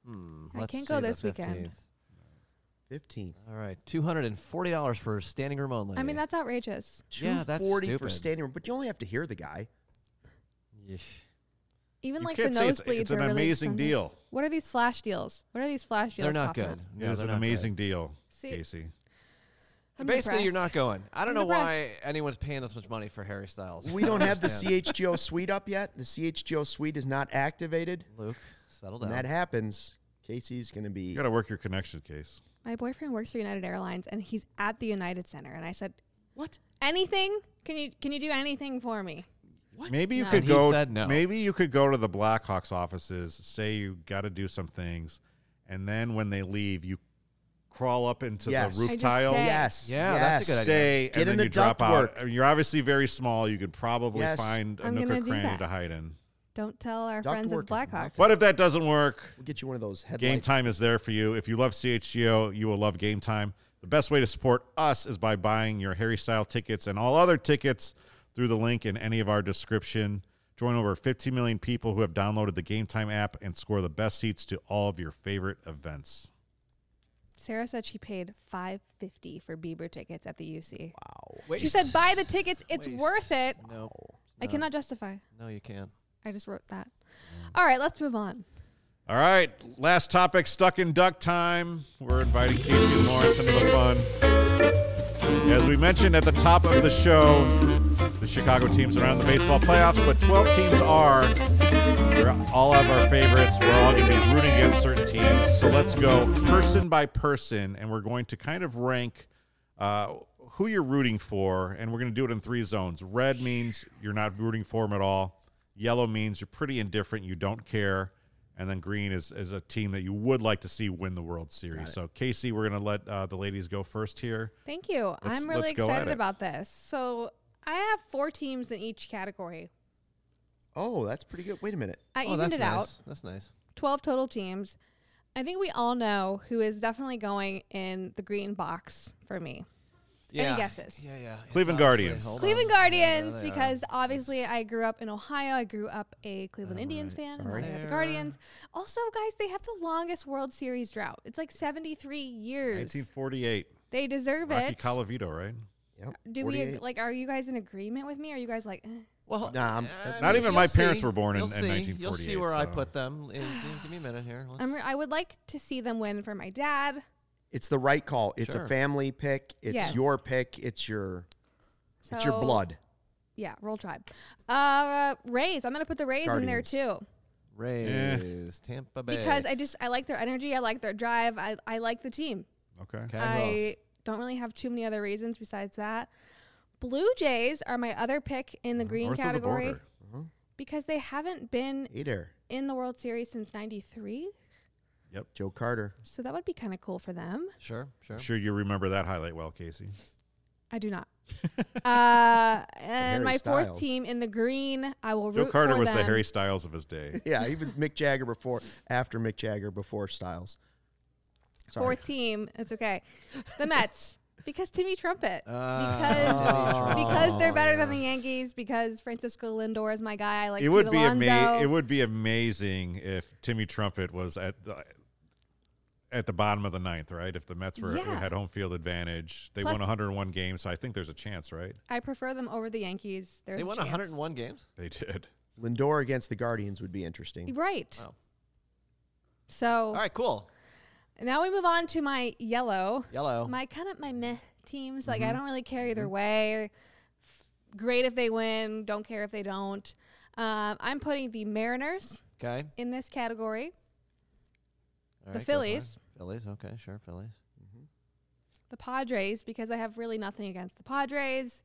I Let's can't go see the this weekend. 15th. 15th? All right, $240 for standing room only. I mean, that's outrageous. Yeah, that's $240 for stupid. standing room, but you only have to hear the guy. Yeesh. Even you like the can't say nosebleeds it's an are really amazing expensive. deal. What are these flash deals? What are these flash deals? They're not popping good. up? No, Yeah, it's they're an not amazing good. deal, See, Casey. I'm Basically, you're depressed. not going. I don't I'm know why anyone's paying this much money for Harry Styles. We don't have the Understand. CHGO suite up yet. The CHGO suite is not activated. Luke, settle When down. that happens, Casey's going to be. You got to work your connection, Case. My boyfriend works for United Airlines, and he's at the United Center. And I said, What? anything? Can you do anything for me? Maybe you No. could And he go. said no. Maybe you could go to the Blackhawks offices, say you got to do some things, and then when they leave, you crawl up into Yes. the roof I just tiles, stay. Yes. Yeah, yes. that's a good idea. stay, Get and in then the you drop ductwork. out. I mean, you're obviously very small. You could probably Yes. find a I'm nook or gonna do cranny that. to hide in. Don't tell our Duct friends at work is Blackhawks. nothing. But if that doesn't work, We'll get you one of those headlights. Game Time is there for you. If you love CHGO, you will love Game Time. The best way to support us is by buying your Harry Style tickets and all other tickets through the link in any of our description. Join over 15 million people who have downloaded the Game Time app and score the best seats to all of your favorite events. Sarah said she paid $550 for Bieber tickets at the UC. Wait, She said, buy the tickets. It's Waste. worth it. no. I cannot justify. No, you can't. I just wrote that. All right, let's move on. All right, last topic, Stuck in Duck time. We're inviting Casey and Lawrence into the fun. As we mentioned at the top of the show, the Chicago teams are around the baseball playoffs, but 12 teams are. We're all have our favorites. We're all going to be rooting against certain teams. So let's go person by person, and we're going to kind of rank who you're rooting for, and we're going to do it in 3 zones. Red means you're not rooting for them at all. Yellow means you're pretty indifferent. You don't care. And then green is a team that you would like to see win the World Series. So, Casey, we're going to let the ladies go first here. Thank you. I'm really let's go at excited it. about this. So I have 4 teams in each category. Oh, that's pretty good. Wait a minute. I Oh, evened that's it nice. out. That's nice. 12 total teams. I think we all know who is definitely going in the green box for me. Any guesses? Yeah. It's Cleveland obviously- Guardians. hold Cleveland on. Guardians, Yeah, they are. because obviously I grew up in Ohio. I grew up a Cleveland Indians fan. Sorry. And I got the There. Guardians. Also, guys, they have the longest World Series drought. It's like 73 years. 1948. They deserve Rocky it. Colavito, right? Yep. Do we 48. like? Are you guys in agreement with me? Are you guys like? Well, Nah, Not even my you'll parents see. were born in You'll see. 1948. You'll see where I so- put them. Give me a minute here. I would like to see them win for my dad. It's the right call. It's Sure. a family pick. It's Yes. your pick. It's your So, blood. Yeah, roll tribe. Rays. I'm gonna put the Rays in there Guardians. too Rays, Tampa Bay. because I like their energy. I like their drive. I like the team. Okay. Okay, who I else? don't really have too many other reasons besides that. Blue Jays are my other pick in the green North of the category border. because they haven't been Hey there, in the World Series since '93. Joe Carter. So that would be kind of cool for them. Sure. I'm sure you remember that highlight well, Casey. I do not. And Harry my fourth Styles. team in the green, I will Joe root Carter for was them. the Harry Styles of his day. Yeah, he was Mick Jagger after Mick Jagger, before Styles. Sorry. Fourth team, it's okay. The Mets, because Timmy Trumpet, Timmy because they're better than the Yankees, because Francisco Lindor is my guy. I like It would Pete be Alonso. It would be amazing if Timmy Trumpet was at the bottom of the ninth, right? If the Mets Yeah. had home field advantage, they Plus- won 101 games, so I think there's a chance, right? I prefer them over the Yankees. There's They a won chance. 101 games. They did. Lindor against the Guardians would be interesting. Right. Wow. So All right, cool. now we move on to my yellow. Yellow. My kind of my meh teams. Like I don't really care either way. Great if they win. Don't care if they don't. I'm putting the Mariners Okay. in this category. All The right, go for it. Phillies. Phillies. Okay, sure. Phillies. The Padres, because I have really nothing against the Padres,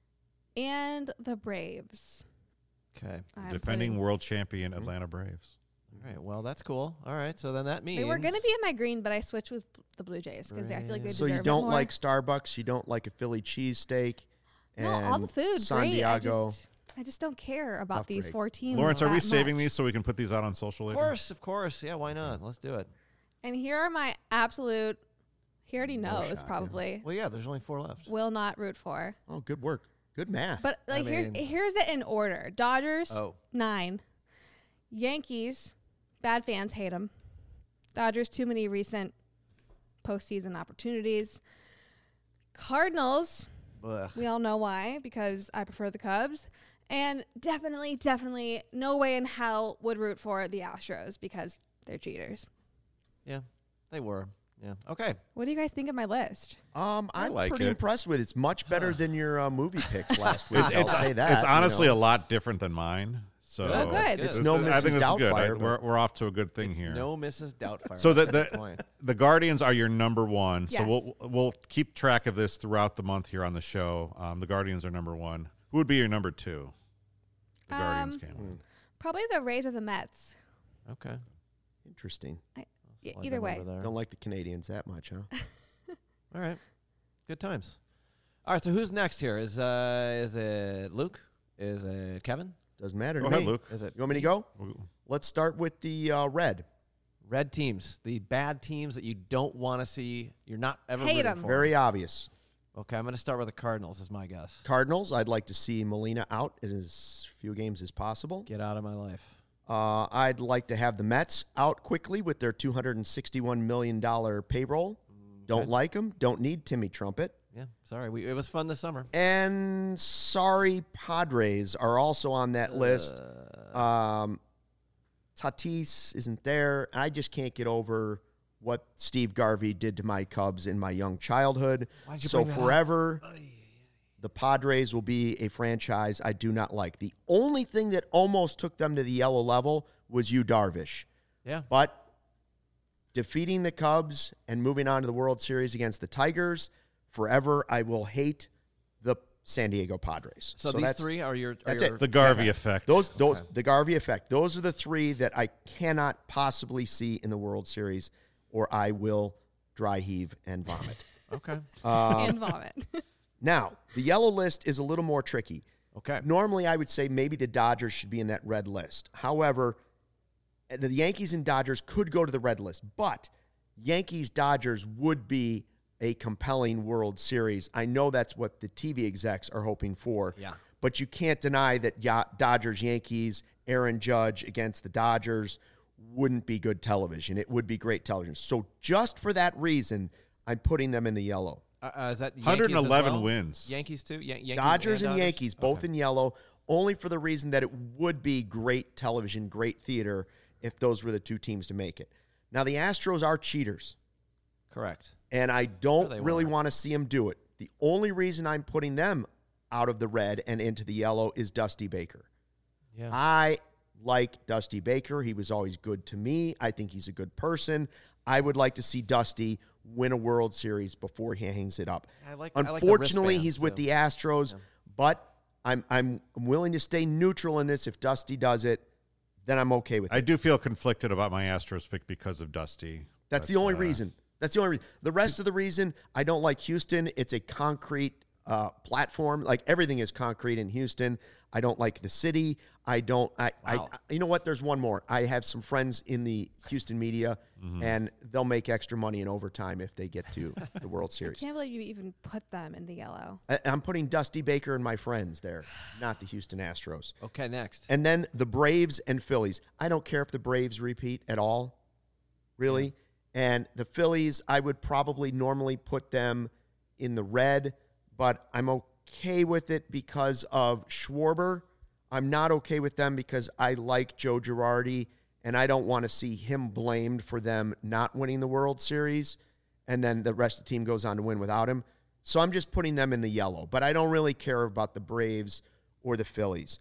and the Braves. Okay. I'm Defending putting- world champion Atlanta Braves. All right. Well, that's cool. All right. So then that means They were going to be in my green, but I switched with the Blue Jays because I feel like they So deserve you it don't more. like Starbucks, you don't like a Philly cheesesteak, no, and all the food, San great. Diego. I just don't care about Tough these break. 4 teams. Lawrence, are we that saving much. these so we can put these out on social Of later? course. Of course. Yeah. Why not? Let's do it. And here are my absolute. He already No knows shot, yeah. probably. Well, yeah. There's only 4 left. Will not root for. Oh, good work. Good math. But like mean- here's it in order. Dodgers Oh. 9, Yankees. Bad fans hate them. Dodgers too many recent postseason opportunities. Cardinals. Ugh. We all know why because I prefer the Cubs. And definitely no way in hell would root for the Astros because they're cheaters. Yeah. They were. Yeah. Okay. What do you guys think of my list? I'm like pretty it. impressed with it. It's much better than your movie picks last week. I'll say that. It's honestly you a know. lot different than mine. So Good. good. It's no I think Mrs. this is good. Doubtfire, but- We're off to a good thing It's here. no Mrs. Doubtfire. So That's the the point. the Guardians are your number one. Yes. So we'll keep track of this throughout the month here on the show. The Guardians are number one. Who would be your number two? The Guardians can't win. Probably the Rays or the Mets. Okay. Interesting. Yeah, Slide either them way. over there. Don't like the Canadians that much, huh? All right. Good times. All right. So who's next here? Is it Luke? Is it Kevin? Doesn't matter Go to ahead, me. Luke. Is it You want me to go? Let's start with the red. red teams? The bad teams that you don't want to see. You're not ever Hate rooting 'em. for. Very obvious. Okay. I'm going to start with the Cardinals. Is my guess. Cardinals, I'd like to see Molina out in as few games as possible. Get out of my life. I'd like to have the Mets out quickly with their $261 million payroll. Don't like them. Don't need Timmy Trumpet. Yeah. Sorry. It was fun this summer. And sorry, Padres are also on that list. Tatis isn't there. I just can't get over what Steve Garvey did to my Cubs in my young childhood. Why'd you So bring that up? forever, the Padres will be a franchise I do not like. The only thing that almost took them to the yellow level was Yu Darvish. Yeah. But defeating the Cubs and moving on to the World Series against the Tigers, forever I will hate the San Diego Padres. So these three are your. That's your, it. The Garvey effect. Those the Garvey effect. Those are the three that I cannot possibly see in the World Series, or I will dry heave and vomit. Okay. And vomit. Now, the yellow list is a little more tricky. Okay. Normally, I would say maybe the Dodgers should be in that red list. However, the Yankees and Dodgers could go to the red list, but Yankees-Dodgers would be a compelling World Series. I know that's what the TV execs are hoping for. Yeah. But you can't deny that Dodgers-Yankees, Aaron Judge against the Dodgers wouldn't be good television. It would be great television. So just for that reason, I'm putting them in the yellow. Is that Yankees 111 as well? wins. Yankees too? Yankees Dodgers and Dodgers? Yankees, both in yellow, only for the reason that it would be great television, great theater, if those were the two teams to make it. Now, the Astros are cheaters, Correct. and I don't they really were. want to see them do it. The only reason I'm putting them out of the red and into the yellow is Dusty Baker. Yeah. I like Dusty Baker. He was always good to me. I think he's a good person. I would like to see Dusty win a World Series before he hangs it up. I like the Unfortunately, wristbands, he's with too. the Astros, but I'm willing to stay neutral in this. If Dusty does it, then I'm okay with it. I do feel conflicted about my Astros pick because of Dusty. That's but, the only reason. That's the only reason. The rest of the reason, I don't like Houston. It's a concrete platform. Like everything is concrete in Houston. I don't like the city. I you know what? There's one more. I have some friends in the Houston media, and they'll make extra money in overtime if they get to the World I Series. can't believe you even put them in the yellow. I'm putting Dusty Baker and my friends there, not the Houston Astros. Okay, next. And then the Braves and Phillies. I don't care if the Braves repeat at all, really. And the Phillies, I would probably normally put them in the red, but I'm okay with it because of Schwarber. I'm not okay with them because I like Joe Girardi, and I don't want to see him blamed for them not winning the World Series, and then the rest of the team goes on to win without him. So I'm just putting them in the yellow, but I don't really care about the Braves or the Phillies.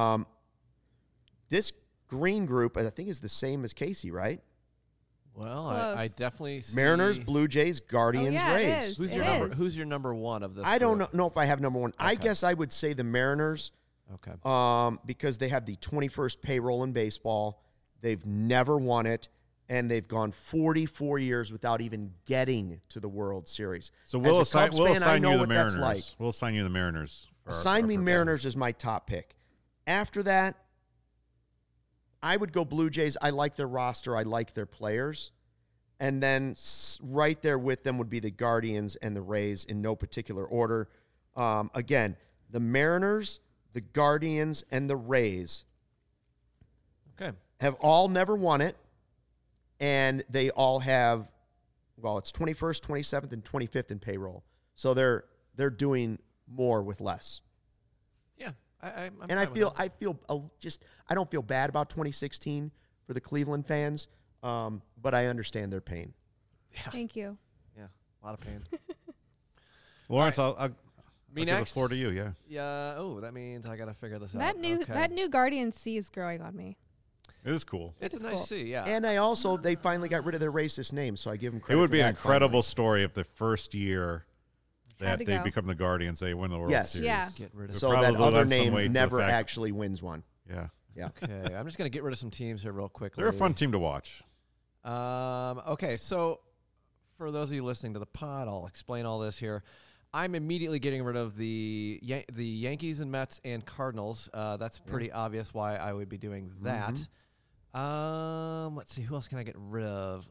This green group, I think, is the same as Casey, right? Well, Close. I definitely see. Mariners, Blue Jays, Guardians, yeah, it Rays. is. Who's It your number? is. Who's your number one of this? I don't group? know if I have number one. I Okay. guess I would say the Mariners Okay. because they have the 21st payroll in baseball. They've never won it, and they've gone 44 years without even getting to the World Series. So As we'll a assign, Cubs we'll fan, I assign know you the what that's Mariners. like. We'll assign you the Mariners. for Assign our me purposes. Mariners as my top pick. After that, I would go Blue Jays. I like their roster. I like their players. And then right there with them would be the Guardians and the Rays in no particular order. Again, the Mariners, the Guardians, and the Rays Okay. have all never won it. And they all have, well, it's 21st, 27th, and 25th in payroll. So they're doing more with less. Yeah. I'm And I fine with feel that. I don't feel bad about 2016 for the Cleveland fans, but I understand their pain. Thank you. Yeah. A lot of pain. Lawrence, I'll Me give the next. floor to you. Yeah. Yeah. Oh, that means I gotta figure this That out. new Okay. that new Guardian C is growing on me. It is cool. It's is a nice cool. C. Yeah. And I also they finally got rid of their racist name, so I give them It credit. would for be an that incredible finally. story if the first year Had that to they go. become the Guardians, they win the World Yes. Series. Yeah. Get rid of. It So that probably other lends some weight name to the never fact- actually wins one. Yeah. Yeah. Okay. I'm just gonna get rid of some teams here real quickly. They're a fun team to watch. Okay, so for those of you listening to the pod, I'll explain all this here. I'm immediately getting rid of the Yankees and Mets and Cardinals. That's pretty obvious why I would be doing that. Let's see, who else can I get rid of?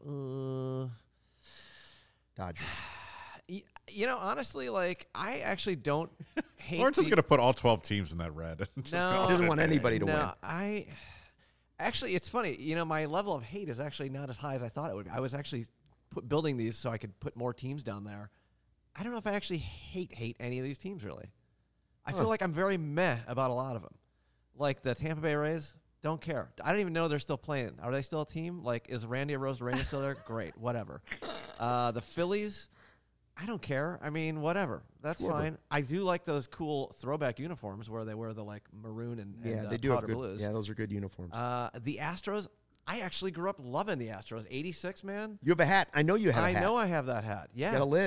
Dodgers. You know, honestly, like I actually don't hate. Lawrence is going to put all 12 teams in that red. Just No. call He doesn't it. want anybody to win. I actually, it's funny. You know, my level of hate is actually not as high as I thought it would be. I was actually building these so I could put more teams down there. I don't know if I actually hate any of these teams really. I feel like I'm very meh about a lot of them. Like the Tampa Bay Rays, don't care. I don't even know they're still playing. Are they still a team? Like, is Randy Arozarena still there? Great, whatever. The Phillies, I don't care. I mean, whatever. That's fine. I do like those cool throwback uniforms where they wear the like maroon and Yeah, and, they do have powder good. blues. Yeah, those are good uniforms. The Astros, I actually grew up loving the Astros. 86, man. You have a hat. I know you have a I hat. know I have that hat. You Yeah. got a lid.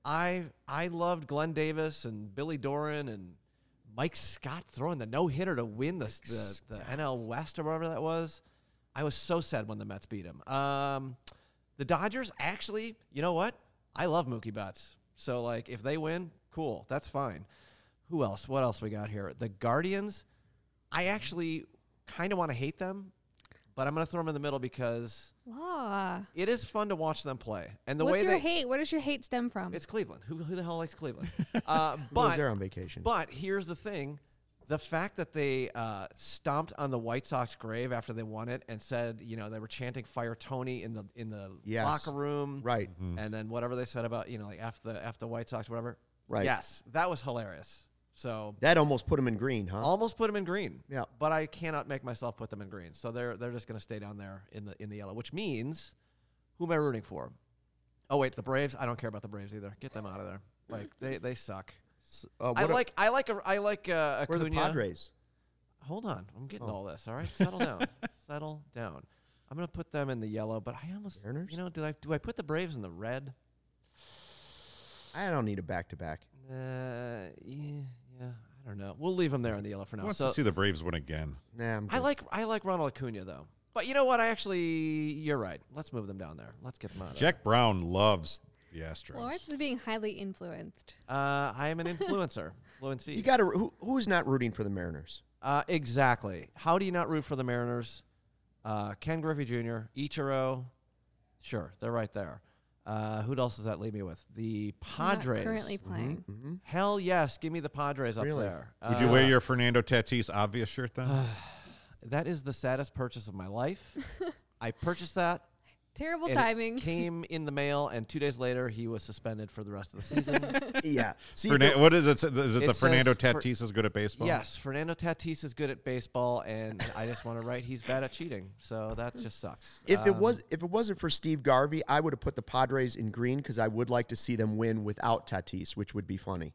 I loved Glenn Davis and Billy Doran and Mike Scott throwing the no-hitter to win the NL West or whatever that was. I was so sad when the Mets beat him. The Dodgers, actually, you know what? I love Mookie Betts. So, like, if they win, cool. That's fine. Who else? What else we got here? The Guardians, I actually kind of want to hate them, but I'm going to throw them in the middle because it is fun to watch them play. And the What's way your hate? Where does your hate stem from? it's Cleveland. Who the hell likes Cleveland? Was there on vacation? But here's the thing. The fact that they stomped on the White Sox grave after they won it and said, you know, they were chanting "Fire Tony" in the Yes. locker room, Right. And then whatever they said about, you know, like F the White Sox, whatever. Right. Yes, that was hilarious. So That almost put him in green, huh? almost put them in green. Yeah. But I cannot make myself put them in green. So they're just going to stay down there in the yellow, which means who am I rooting for? Oh wait, the Braves. I don't care about the Braves either. Get them out of there. Like they suck. I like Where are Acuna. the Padres? Hold on. I'm getting all this. All right. Settle down. Settle down. I'm going to put them in the yellow, but I almost, Mariners? you know, do I put the Braves in the red? I don't need a back-to-back. Yeah, I don't know. We'll leave them there in the yellow for now. Wants So to see the Braves win again. Nah, I'm I good. like Ronald Acuna though. But you know what? You're right. Let's move them down there. Let's get them out of Jack Brown loves the Astros. Lawrence is being highly influenced. there. I am an influencer. Fluency. You got to. Who's not rooting for the Mariners? Exactly. How do you not root for the Mariners? Ken Griffey Jr., Ichiro. Sure, they're right there. Who else does that leave me with? The Not Padres. currently playing. Mm-hmm. Hell yes, give me the Padres up Really? there. Would you wear your Fernando Tatis obvious shirt then? That is the saddest purchase of my life. I purchased that. Terrible and timing. It came in the mail, and 2 days later, he was suspended for the rest of the season. Yeah. See, What is it? Is it It the Fernando says Tatis is good at baseball? Yes, Fernando Tatis is good at baseball, and I just want to write he's bad at cheating. So that just sucks. if it wasn't for Steve Garvey, I would have put the Padres in green because I would like to see them win without Tatis, which would be funny.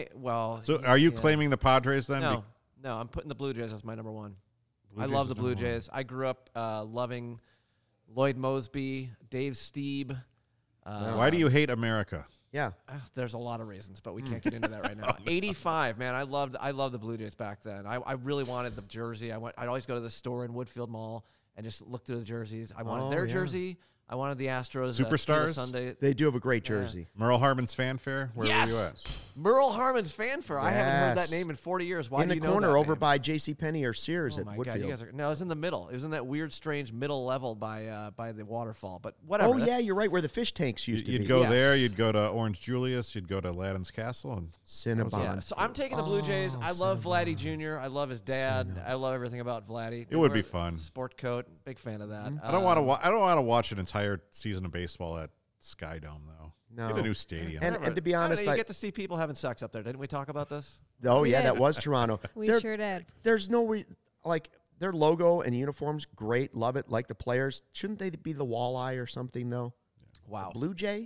So are you yeah. claiming the Padres then? No, I'm putting the Blue Jays as my number one. Blue I Jays love is the Blue number one. Jays. I grew up loving Lloyd Mosby, Dave Stieb. Why do you hate America? Yeah. There's a lot of reasons, but we can't get into that right now. 85, man. I loved the Blue Jays back then. I really wanted the jersey. I'd always go to the store in Woodfield Mall and just look through the jerseys. I wanted their jersey. I wanted the Astros. Superstars? Sunday. They do have a great jersey. Merle Harmon's fanfare? Where Yes! were you at? Merle Harmon's fanfare. I haven't heard Yes. that name in 40 years. Why In do the you know corner that over name? by J.C. Penney or Sears Oh at my Woodfield. God, you guys are, no, it was in the middle. It was in that weird, strange middle level by the waterfall. But whatever. Oh, yeah, that's- you're right, where the fish tanks used to You'd be. go Yes. there. You'd go to Orange Julius. You'd go to Aladdin's Castle. And Cinnabon. Yeah, so I'm taking the Blue Jays. I love Vladdy Jr. I love his dad. I love everything about Vladdy. It would be fun. Sport coat, big fan of that. I don't want to. I don't want to watch an entire season of baseball at Sky Dome though. No. Get a new stadium. And to be honest, you get to see people having sex up there. Didn't we talk about this? oh, We yeah, did. that was Toronto. We There- sure did. There's no like their logo and uniforms, great, love it. Like the players, shouldn't they be the walleye or something though? Wow. Blue Jay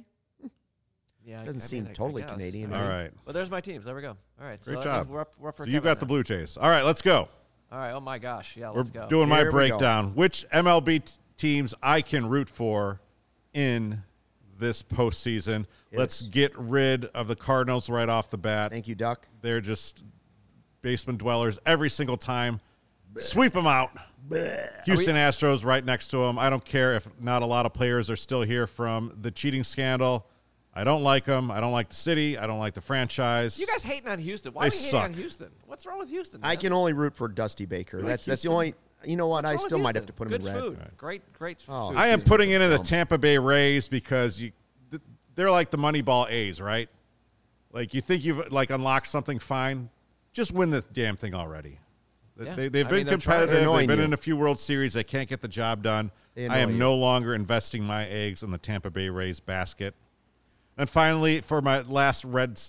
Yeah, doesn't seem I totally guess. Canadian. All right. Well, there's my teams. There we go. All right. Great so job. We're up for So you Kevin got the now. Blue Jays. All right, let's go. All right. Oh my gosh. Yeah. We're Let's go. doing my Here we go. breakdown. Which MLB teams I can root for in this postseason. Yes. Let's get rid of the Cardinals right off the bat. Thank you, Duck. They're just basement dwellers every single time. Sweep them out. Houston Astros right next to them. I don't care if not a lot of players are still here from the cheating scandal. I don't like them. I don't like the city. I don't like the franchise. You guys hating on Houston? Why They are we hating suck. on Houston? What's wrong with Houston? I man? can only root for Dusty Baker. That's the only. You know what? What's I wrong with still might have Houston? to put him Good in red. food. Great Oh. food. I am Houston's putting it in the dumb. Tampa Bay Rays because they're like the Moneyball A's, right? Like you think you've like unlocked something fine, just win the damn thing already. Yeah. They've I been mean, they're trying- competitive. They're They've annoying been you. in a few World Series. They can't get the job done. They I am annoy you. no longer investing my eggs in the Tampa Bay Rays basket. And finally, for my last red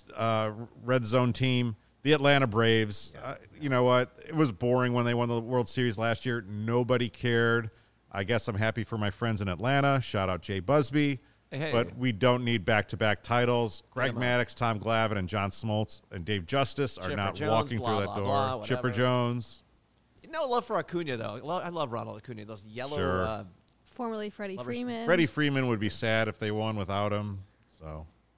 zone team, the Atlanta Braves. You know what? It was boring when they won the World Series last year. Nobody cared. I guess I'm happy for my friends in Atlanta. Shout out Jay Busby. Hey. But we don't need back-to-back titles. Greg them out. Maddux, Tom Glavine, and John Smoltz and Dave Justice are Chipper not Jones, walking blah, through that blah, door. blah, Chipper whatever. Jones. No love for Acuna though. I love Ronald Acuna. Those yellow. Sure. Formerly Freddie Lovers- Freeman. Freddie Freeman would be sad if they won without him. So,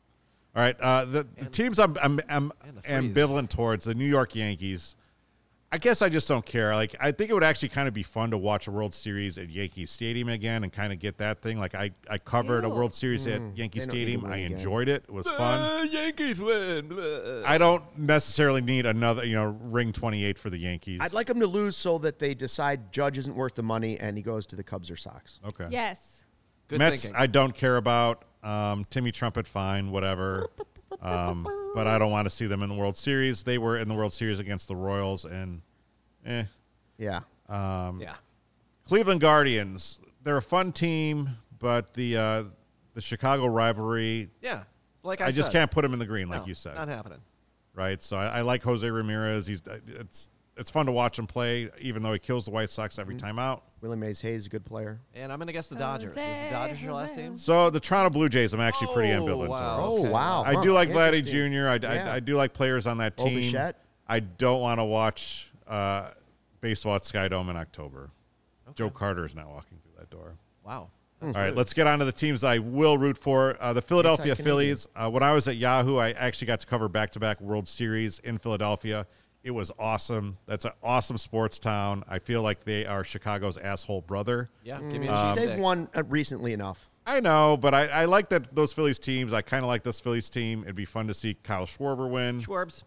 All right, the teams I'm the freeze. ambivalent towards, the New York Yankees. I guess I just don't care. Like, I think it would actually kind of be fun to watch a World Series at Yankee Stadium again and kind of get that thing. Like, I covered a Ew. World Series at Yankee They don't need to Stadium. win I again. enjoyed it. It was fun. Yankees win. Blah. I don't necessarily need another, ring 28 for the Yankees. I'd like them to lose so that they decide Judge isn't worth the money and he goes to the Cubs or Sox. Okay. Yes. Good Mets, thinking. I don't care about. Timmy Trumpet, fine, whatever. But I don't want to see them in the World Series. They were in the World Series against the Royals, and Yeah. Yeah. Cleveland Guardians. They're a fun team, but the Chicago rivalry, Yeah. Like I just said. can't put them in the green, like No, you said, Not happening. right? So I like Jose Ramirez. It's fun to watch him play, even though he kills the White Sox every time out. Willie Mays Hayes is a good player. And I'm going to guess the Dodgers. Is the Dodgers your last team? So the Toronto Blue Jays, I'm actually pretty Oh, ambivalent wow. towards. Oh, wow. I Huh, do like Vladdy interesting. Jr. Yeah. I do like players on that team. Bichette? I don't want to watch baseball at Sky Dome in October. Joe Carter is not walking through that door. Wow. All right, let's get on to the teams I will root for. The Philadelphia Anti-Canadian. Phillies. When I was at Yahoo, I actually got to cover back-to-back World Series in Philadelphia. It was awesome. That's an awesome sports town. I feel like they are Chicago's asshole brother. Yeah. Give me a cheese They've stick. won recently enough. I know, but I like that those Phillies teams. I kind of like this Phillies team. It'd be fun to see Kyle Schwarber win. Schwarbs.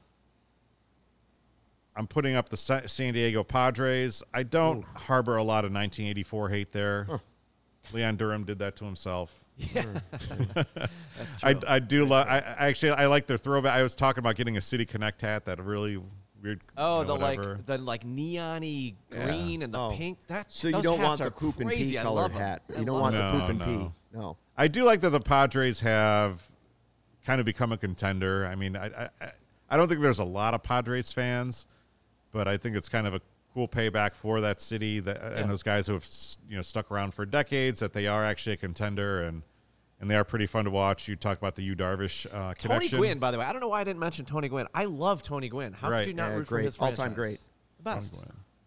I'm putting up the San Diego Padres. I don't harbor a lot of 1984 hate there. Leon Durham did that to himself. Yeah. That's true. I do love. I like their throwback. I was talking about getting a City Connect hat. That really weird. Oh, whatever. the neon-y green and the Oh. pink. So you those don't hats want are the poop and crazy. pee I colored love 'em. hat. I You don't love want 'em. the poop and No. pee. No. I do like that the Padres have kind of become a contender. I mean, I don't think there's a lot of Padres fans, but I think it's kind of a cool payback for that city and those guys who have stuck around for decades, that they are actually a contender, and they are pretty fun to watch. You talk about the Yu Darvish Tony connection. Gwynn, by the way. I don't know why I didn't mention Tony Gwynn. I love Tony Gwynn. How Right. could you not Yeah, root for great. his All-time franchise? great. The best.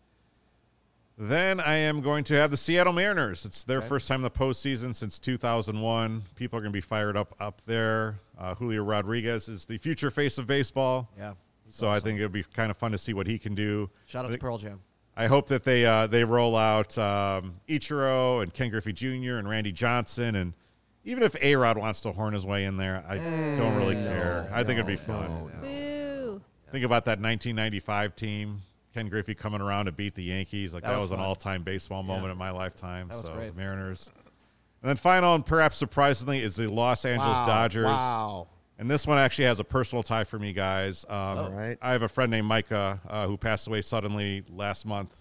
Then I am going to have the Seattle Mariners. It's their first time in the postseason since 2001. People are going to be fired up there. Julio Rodriguez is the future face of baseball. Yeah. So I think it'll be kind of fun to see what he can do. Shout out to Pearl Jam. I hope that they roll out Ichiro and Ken Griffey Jr. and Randy Johnson, and even if A-Rod wants to horn his way in there, I don't really care. I think it'd be fun. Boo. Think about that 1995 team. Ken Griffey coming around to beat the Yankees. Like, that was an fun. all-time baseball moment in my lifetime. That was So great. the Mariners. And then final and perhaps surprisingly is the Los Angeles Dodgers. Wow. And this one actually has a personal tie for me, guys. All right. I have a friend named Micah who passed away suddenly last month.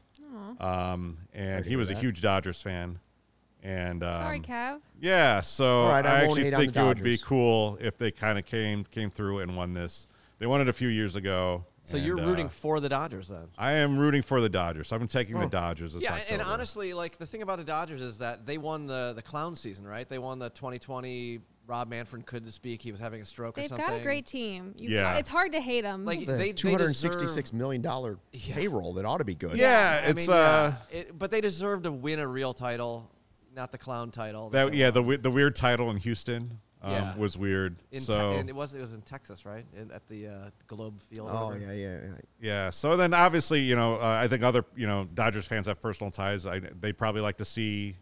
And he was a huge Dodgers fan. And Sorry, Cav. yeah, so All right, I I won't actually hate on think the it would be Dodgers. cool if they kind of came through and won this. They won it a few years ago. So and, you're rooting for the Dodgers then? I am rooting for the Dodgers. I've been taking the Dodgers this Yeah, October. and honestly, like the thing about the Dodgers is that they won the clown season, right? They won the 2020. Rob Manfred couldn't speak; he was having a stroke or They've something. got a great team. Yeah. It's hard to hate them. Like The they $266 million payroll that ought to be good. Yeah, I it's mean, but they deserve to win a real title, not the clown title. that they yeah won. the weird title in Houston Yeah. was weird. And it was in Texas, right? At the Globe Field. or Oh, whatever. yeah. Yeah. So then, obviously, I think other, Dodgers fans have personal ties. They probably like to see,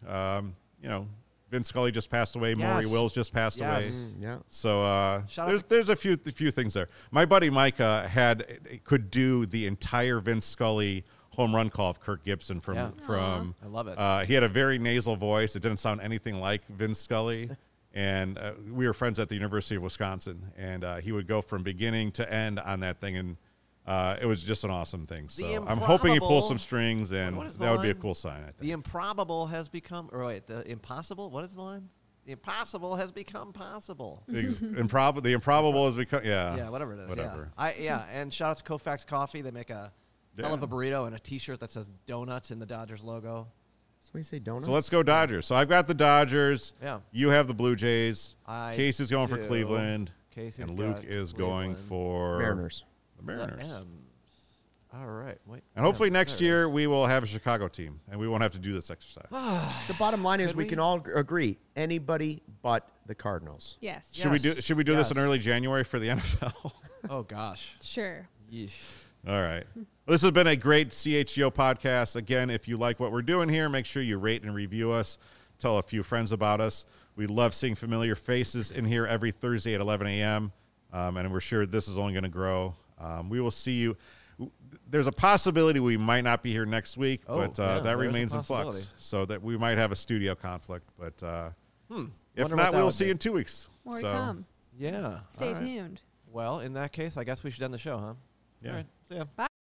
Vince Scully just passed away. Maury Yes. Wills just passed away. Yes. Yeah. So Shout out there's a few things there. My buddy Micah could do the entire Vince Scully home run call of Kirk Gibson from I love it. he had a very nasal voice. It didn't sound anything like Vince Scully. And we were friends at the University of Wisconsin, and he would go from beginning to end on that thing, and it was just an awesome thing. So I'm hoping he pulls some strings, and What is the that would be a line? cool sign, I think. The improbable has become. Or wait, the impossible. What is the line? The impossible has become possible. The improbable has become, Yeah, whatever it is. Whatever. Yeah. And shout out to Koufax Coffee. They make a hell of a burrito and a T-shirt that says donuts in the Dodgers logo. So we say donuts? So let's go Dodgers. So I've got the Dodgers. Yeah. You have the Blue Jays. I Casey's going for do. Cleveland. Casey's And Luke got is going Cleveland. for Mariners. the Mariners. The M's. All right. Wait. And hopefully Yeah, next there it year is. we will have a Chicago team, and we won't have to do this exercise. The bottom line is Could we we? can all agree anybody but the Cardinals. Yes. Should we do this in Yes. early January for the NFL? Oh gosh. Sure. Yeesh. All right. Well, this has been a great CHGO podcast. Again, if you like what we're doing here, make sure you rate and review us. Tell a few friends about us. We love seeing familiar faces in here every Thursday at 11 a.m., and we're sure this is only going to grow. We will see you. There's a possibility we might not be here next week, Oh, but yeah, that there's a remains in possibility. flux, so that we might have a studio conflict. But if Wonder what not, that we will would see be. you in 2 weeks. More to So, come. Yeah. Stay All right. tuned. Well, in that case, I guess we should end the show, huh? Yeah. All right. See ya. Bye.